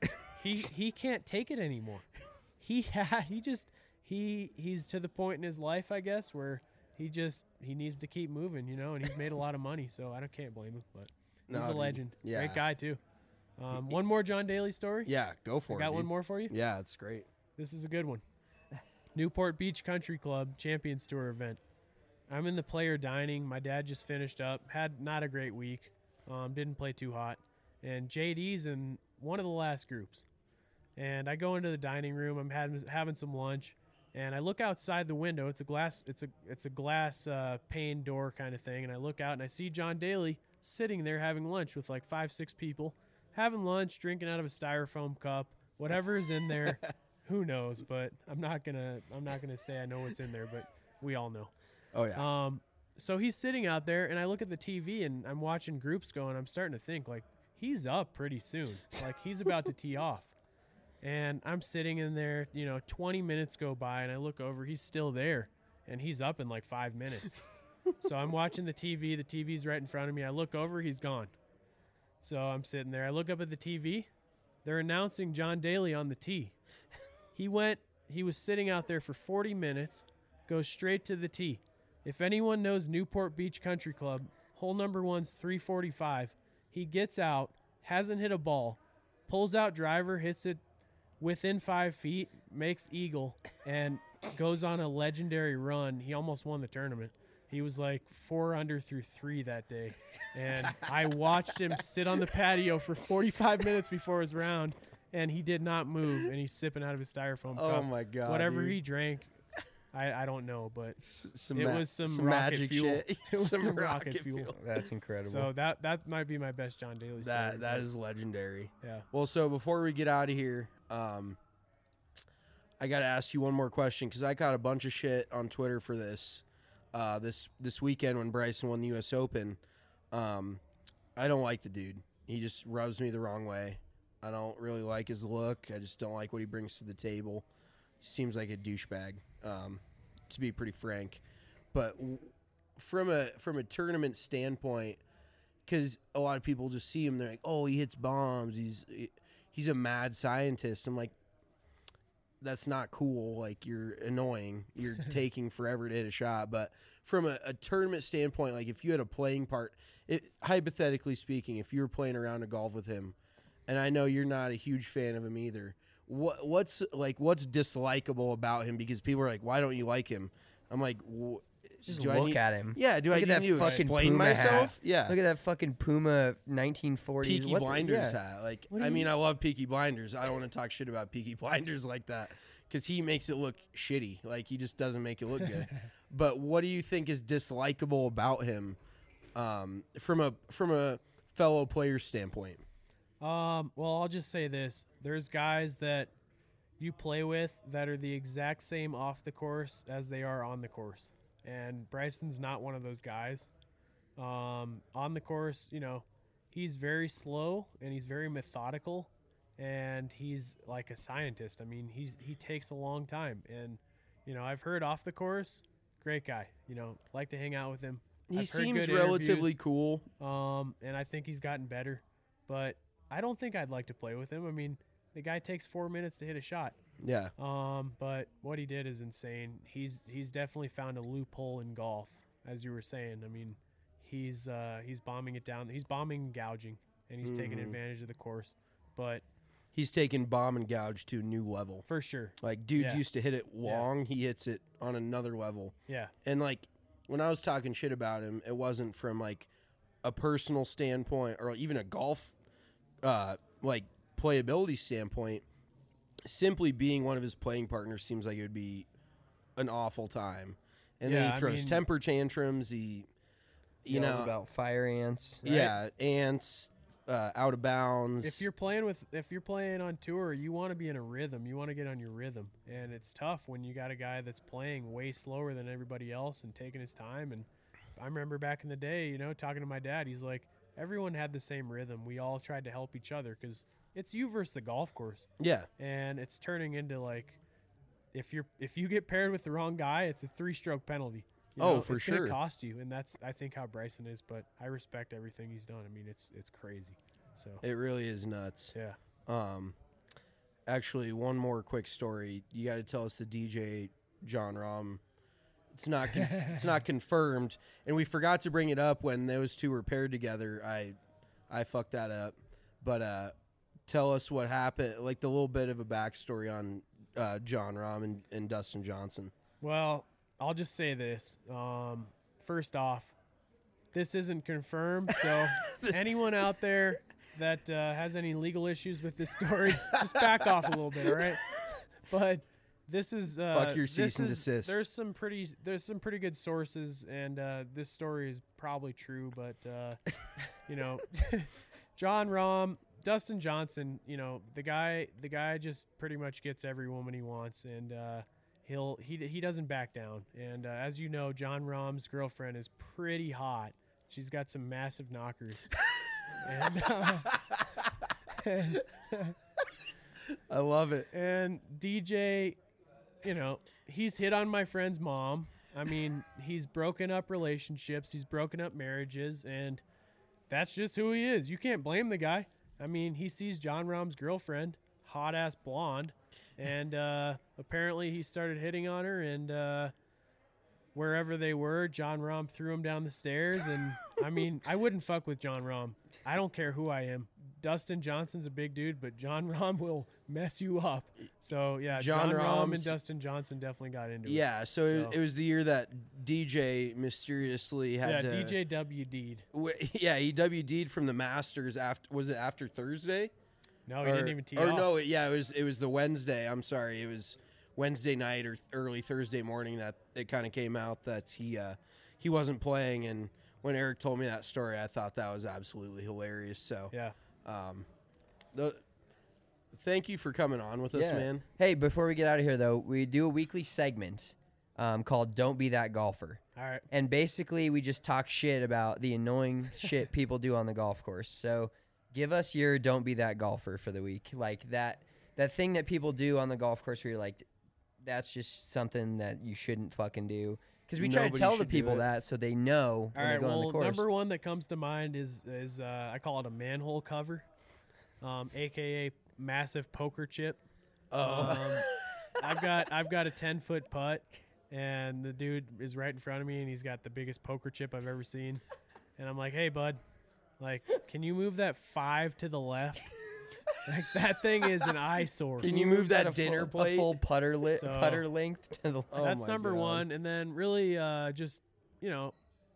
he he can't take it anymore. He ha- he just he he's to the point in his life, I guess, where he just he needs to keep moving, you know, and he's made a lot of money, so I don't can't blame him. But he's No, a dude. legend, Yeah. great guy too. Um, one more John Daly story. Yeah, go for I it. got one dude. more for you. Yeah, it's great. This is a good one. Newport Beach Country Club Champions Tour event. I'm in the player dining. My dad just finished up. Had not a great week. Um, didn't play too hot. And J D's in one of the last groups. And I go into the dining room. I'm having having some lunch, and I look outside the window. It's a glass. It's a it's a glass uh, pane door kind of thing. And I look out and I see John Daly sitting there having lunch with like five six people, having lunch, drinking out of a styrofoam cup. Whatever is in there, who knows? But I'm not gonna I'm not gonna say I know what's in there. But we all know. Oh yeah. Um, so he's sitting out there, and I look at the T V, and I'm watching groups go, and I'm starting to think, like, he's up pretty soon. Like, he's about to tee off. And I'm sitting in there, you know, twenty minutes go by, and I look over, he's still there, and he's up in like five minutes. So I'm watching the T V. The T V's right in front of me. I look over, he's gone. So I'm sitting there. I look up at the T V. They're announcing John Daly on the tee. He went, he was sitting out there for forty minutes, goes straight to the tee. If anyone knows Newport Beach Country Club, hole number one's three forty-five. He gets out, hasn't hit a ball, pulls out driver, hits it within five feet, makes eagle, and goes on a legendary run. He almost won the tournament. He was like four under through three that day. And I watched him sit on the patio for forty-five minutes before his round, and he did not move, and he's sipping out of his styrofoam Oh cup. my God, Whatever dude. he drank, I, I don't know, but S- some it ma- was some, some rocket magic fuel. shit. It was Some some, rocket rocket fuel. fuel. That's incredible. So that that might be my best John Daly story. That that but is legendary. yeah. Well, so before we get out of here, um, I got to ask you one more question because I got a bunch of shit on Twitter for this. Uh, this this weekend when Bryson won the U S Open, um, I don't like the dude. He just rubs me the wrong way. I don't really like his look. I just don't like what he brings to the table. He seems like a douchebag, um, to be pretty frank. But w- from a from a tournament standpoint, because a lot of people just see him, they're like, "Oh, he hits bombs. He's he's a mad scientist." I'm like, that's not cool. Like, you're annoying. You're taking forever to hit a shot. But from a, a tournament standpoint, like if you had a playing part, it, hypothetically speaking, if you were playing around a golf with him, and I know you're not a huge fan of him either, what what's like what's dislikable about him? Because people are like, why don't you like him? I'm like, wh- Just do I look need- at him. Yeah, do Look I at need that to fucking explain Puma myself? hat. Yeah. Look at that fucking Puma nineteen forties. Peaky What the- Blinders yeah. hat. Like, What do I you- mean, I love Peaky Blinders. I don't want to talk shit about Peaky Blinders like that because he makes it look shitty. Like, he just doesn't make it look good. But what do you think is dislikable about him, um, from a from a fellow player standpoint? Um, well, I'll just say this. There's guys that you play with that are the exact same off the course as they are on the course. And Bryson's not one of those guys. Um, on the course, you know, he's very slow and he's very methodical and he's like a scientist. I mean, he's he takes a long time. And, you know, I've heard off the course, great guy. You know, like to hang out with him. He I've heard seems good relatively interviews. cool. Um, and I think he's gotten better, but I don't think I'd like to play with him. I mean, the guy takes four minutes to hit a shot. Yeah. Um, but what he did is insane. He's he's definitely found a loophole in golf, as you were saying. I mean, he's uh, he's bombing it down. He's bombing and gouging, and he's taking Mhm. advantage of the course. But He's taken bomb and gouge to a new level. for sure, Like, dudes Yeah. used to hit it long. He hits it on another level. yeah, And, like, when I was talking shit about him, it wasn't from, like, a personal standpoint or even a golf, uh, like, playability standpoint. Simply being one of his playing partners seems like it would be an awful time. And Yeah, then I he throws mean- temper tantrums. He, you Yells know, about fire ants. right? yeah, ants, uh, out of bounds. if you're playing with if you're playing on tour, you want to be in a rhythm. You want to get on your rhythm, and it's tough when you got a guy that's playing way slower than everybody else and taking his time. And I remember back in the day, you know, talking to my dad, he's like, everyone had the same rhythm. We all tried to help each other because it's you versus the golf course, yeah, and it's turning into like if you're if you get paired with the wrong guy, it's a three stroke penalty. You Oh, know, for it's gonna sure. cost you, and that's I think how Bryson is. But I respect everything he's done. I mean, it's it's crazy. So it really is nuts. yeah. Um, actually, one more quick story. You got to tell us the D J John Rahm. It's not con- it's not confirmed, and we forgot to bring it up when those two were paired together. I I fucked that up, but uh, tell us what happened, like the little bit of a backstory on uh, John Rahm and, and Dustin Johnson. Well, I'll just say this. Um, first off, this isn't confirmed. So anyone out there that uh, has any legal issues with this story, just back off a little bit, all right? But this is uh, Fuck your this cease and is- desist. There's some pretty there's some pretty good sources, and uh, this story is probably true. But uh, you know, John Rahm, Dustin Johnson, you know, the guy the guy just pretty much gets every woman he wants, and uh, he'll he he doesn't back down. And uh, as you know, John Rahm's girlfriend is pretty hot. She's got some massive knockers. and, uh, and, I love it. and D J, you know, he's hit on my friend's mom. I mean, he's broken up relationships. He's broken up marriages, and that's just who he is. You can't blame the guy. I mean, he sees John Rahm's girlfriend, hot ass blonde, and uh, apparently he started hitting on her. And uh, wherever they were, John Rahm threw him down the stairs. And I mean, I wouldn't fuck with John Rahm. I don't care who I am. Dustin Johnson's a big dude, but John Rahm will mess you up. So yeah, John John, Rahm and Rahm's- Dustin Johnson definitely got into it. Yeah, so, It, So- it was the year that D J mysteriously had Yeah, to. D J W D'd. w- yeah, he W D'd from the Masters after. Was it after Thursday? No, he or, didn't even tee Or off. no, it, yeah, it was. It was the Wednesday. I'm sorry, it was Wednesday night or early Thursday morning that it kind of came out that he uh, he wasn't playing. And when Eric told me that story, I thought that was absolutely hilarious. So Yeah. Um, the, thank you for coming on with us, Yeah. man. Hey, before we get out of here, though, we do a weekly segment um, called Don't Be That Golfer. All right. And basically, we just talk shit about the annoying shit people do on the golf course. So give us your Don't Be That Golfer for the week. Like that that thing that people do on the golf course where you're like, that's just something that you shouldn't fucking do. Because we try to Nobody tell the should do people it. that so they know All when right. they go on Well, the course. number one that comes to mind is is uh, I call it a manhole cover, um, aka massive poker chip. Oh. Um, I've got I've got a ten foot putt, and the dude is right in front of me, and he's got the biggest poker chip I've ever seen. And I'm like, hey, bud, like, can you move that five to the left? Like that thing is an eyesore. Can you move that a dinner full, plate? A full putter li- So- putter length to the Oh That's my number God. one. And then really uh, just, you know,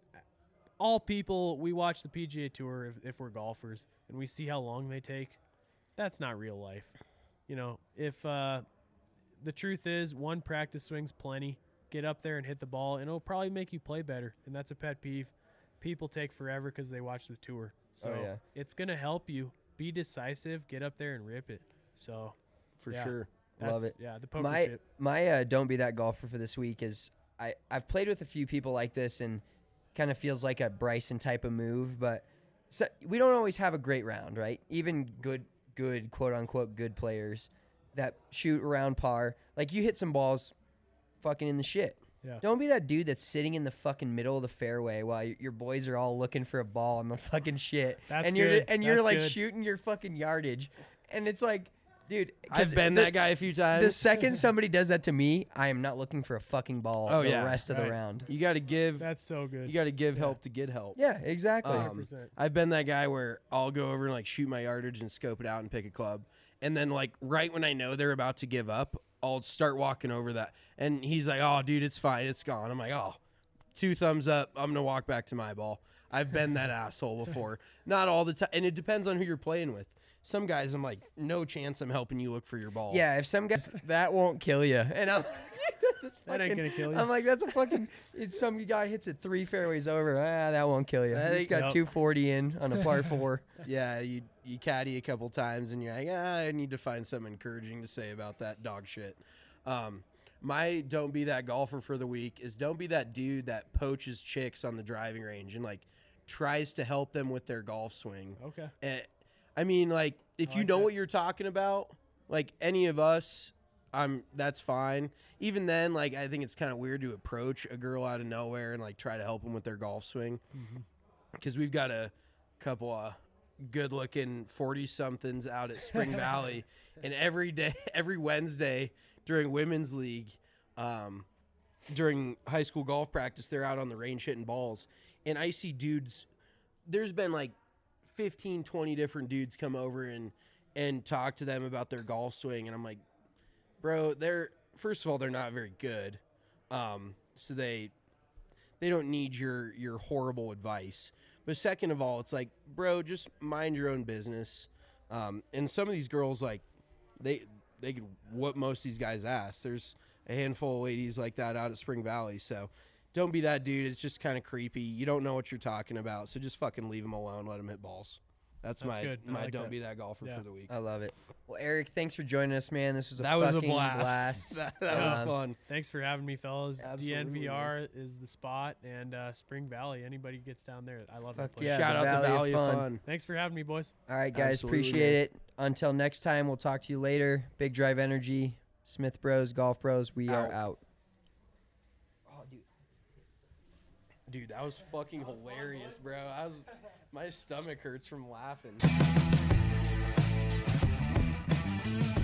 all people, we watch the P G A Tour if, if we're golfers and we see how long they take. That's not real life. You know, if uh, the truth is one practice swing's plenty, get up there and hit the ball, and it'll probably make you play better. And that's a pet peeve. People take forever because they watch the tour. So yeah. it's going to help you. Be decisive, get up there and rip it. So For yeah. sure. that's, Love it. Yeah, the poker my chip. my uh, Don't Be That Golfer for this week is I, I've played with a few people like this and kind of feels like a Bryson type of move, but so, we don't always have a great round, right? Even good, good, quote unquote, good players that shoot around par. Like you hit some balls fucking in the shit. Yeah. Don't be that dude that's sitting in the fucking middle of the fairway while y- your boys are all looking for a ball on the fucking shit. That's and you're good. and you're That's like good. shooting your fucking yardage. And it's like, dude, 'cause I've been the- that guy a few times. the second somebody does that to me, I am not looking for a fucking ball Oh, the yeah. rest of the Right. round. you got to give. That's so good. You got to give Yeah. help to get help. Yeah, exactly. Um, one hundred percent. I've been that guy where I'll go over and like shoot my yardage and scope it out and pick a club, and then like right when I know they're about to give up, I'll start walking over that, and he's like, "Oh, dude, it's fine, it's gone." I'm like, "Oh, two thumbs up. I'm gonna walk back to my ball." I've been that asshole before. Not all the time, and it depends on who you're playing with. Some guys, I'm like, no chance I'm helping you look for your ball. Yeah, if some guys that won't kill you, and I'm that's just That ain't fucking- gonna kill you. I'm like, that's a fucking. It's some guy hits it three fairways over. Ah, that won't kill you. That He's ain't- got Nope. two forty in on a par four. yeah. You you caddy a couple times, and you're like, ah, I need to find something encouraging to say about that dog shit. Um, my don't be that golfer for the week is don't be that dude that poaches chicks on the driving range and like tries to help them with their golf swing. Okay. And, I mean, like if I you like know that. what you're talking about, like any of us, I'm that's fine. Even then, like I think it's kind of weird to approach a girl out of nowhere and like try to help them with their golf swing, because we've got a couple of good-looking forty-somethings out at Spring Valley, and every day, every Wednesday during women's league, um, during high school golf practice, they're out on the range hitting balls, and I see dudes. There's been like fifteen, twenty different dudes come over and and talk to them about their golf swing, and I'm like, bro, they're first of all they're not very good, um, so they they don't need your your horrible advice. But second of all, it's like, bro, just mind your own business. Um, and some of these girls, like, they they could whoop most of these guys' ass. There's a handful of ladies like that out at Spring Valley, so don't be that dude. It's just kind of creepy. You don't know what you're talking about, so just fucking leave them alone. Let them hit balls. That's, That's my good. I my like don't that. be that golfer Yeah. for the week. I love it. Well, Eric, thanks for joining us, man. This was a that was a fucking blast. blast. that that was Um, fun. Thanks for having me, fellas. Absolutely, D N V R is the spot, and uh, Spring Valley. Anybody gets down there, I love that Fuck place. yeah. Shout the out Valley to of Valley of Fun. Fun. Thanks for having me, boys. All right, guys, Absolutely, appreciate man. it. Until next time, we'll talk to you later. Big Drive Energy, Smith Bros, Golf Bros. We are Out. out. Dude, that was fucking hilarious, bro. I was, my stomach hurts from laughing.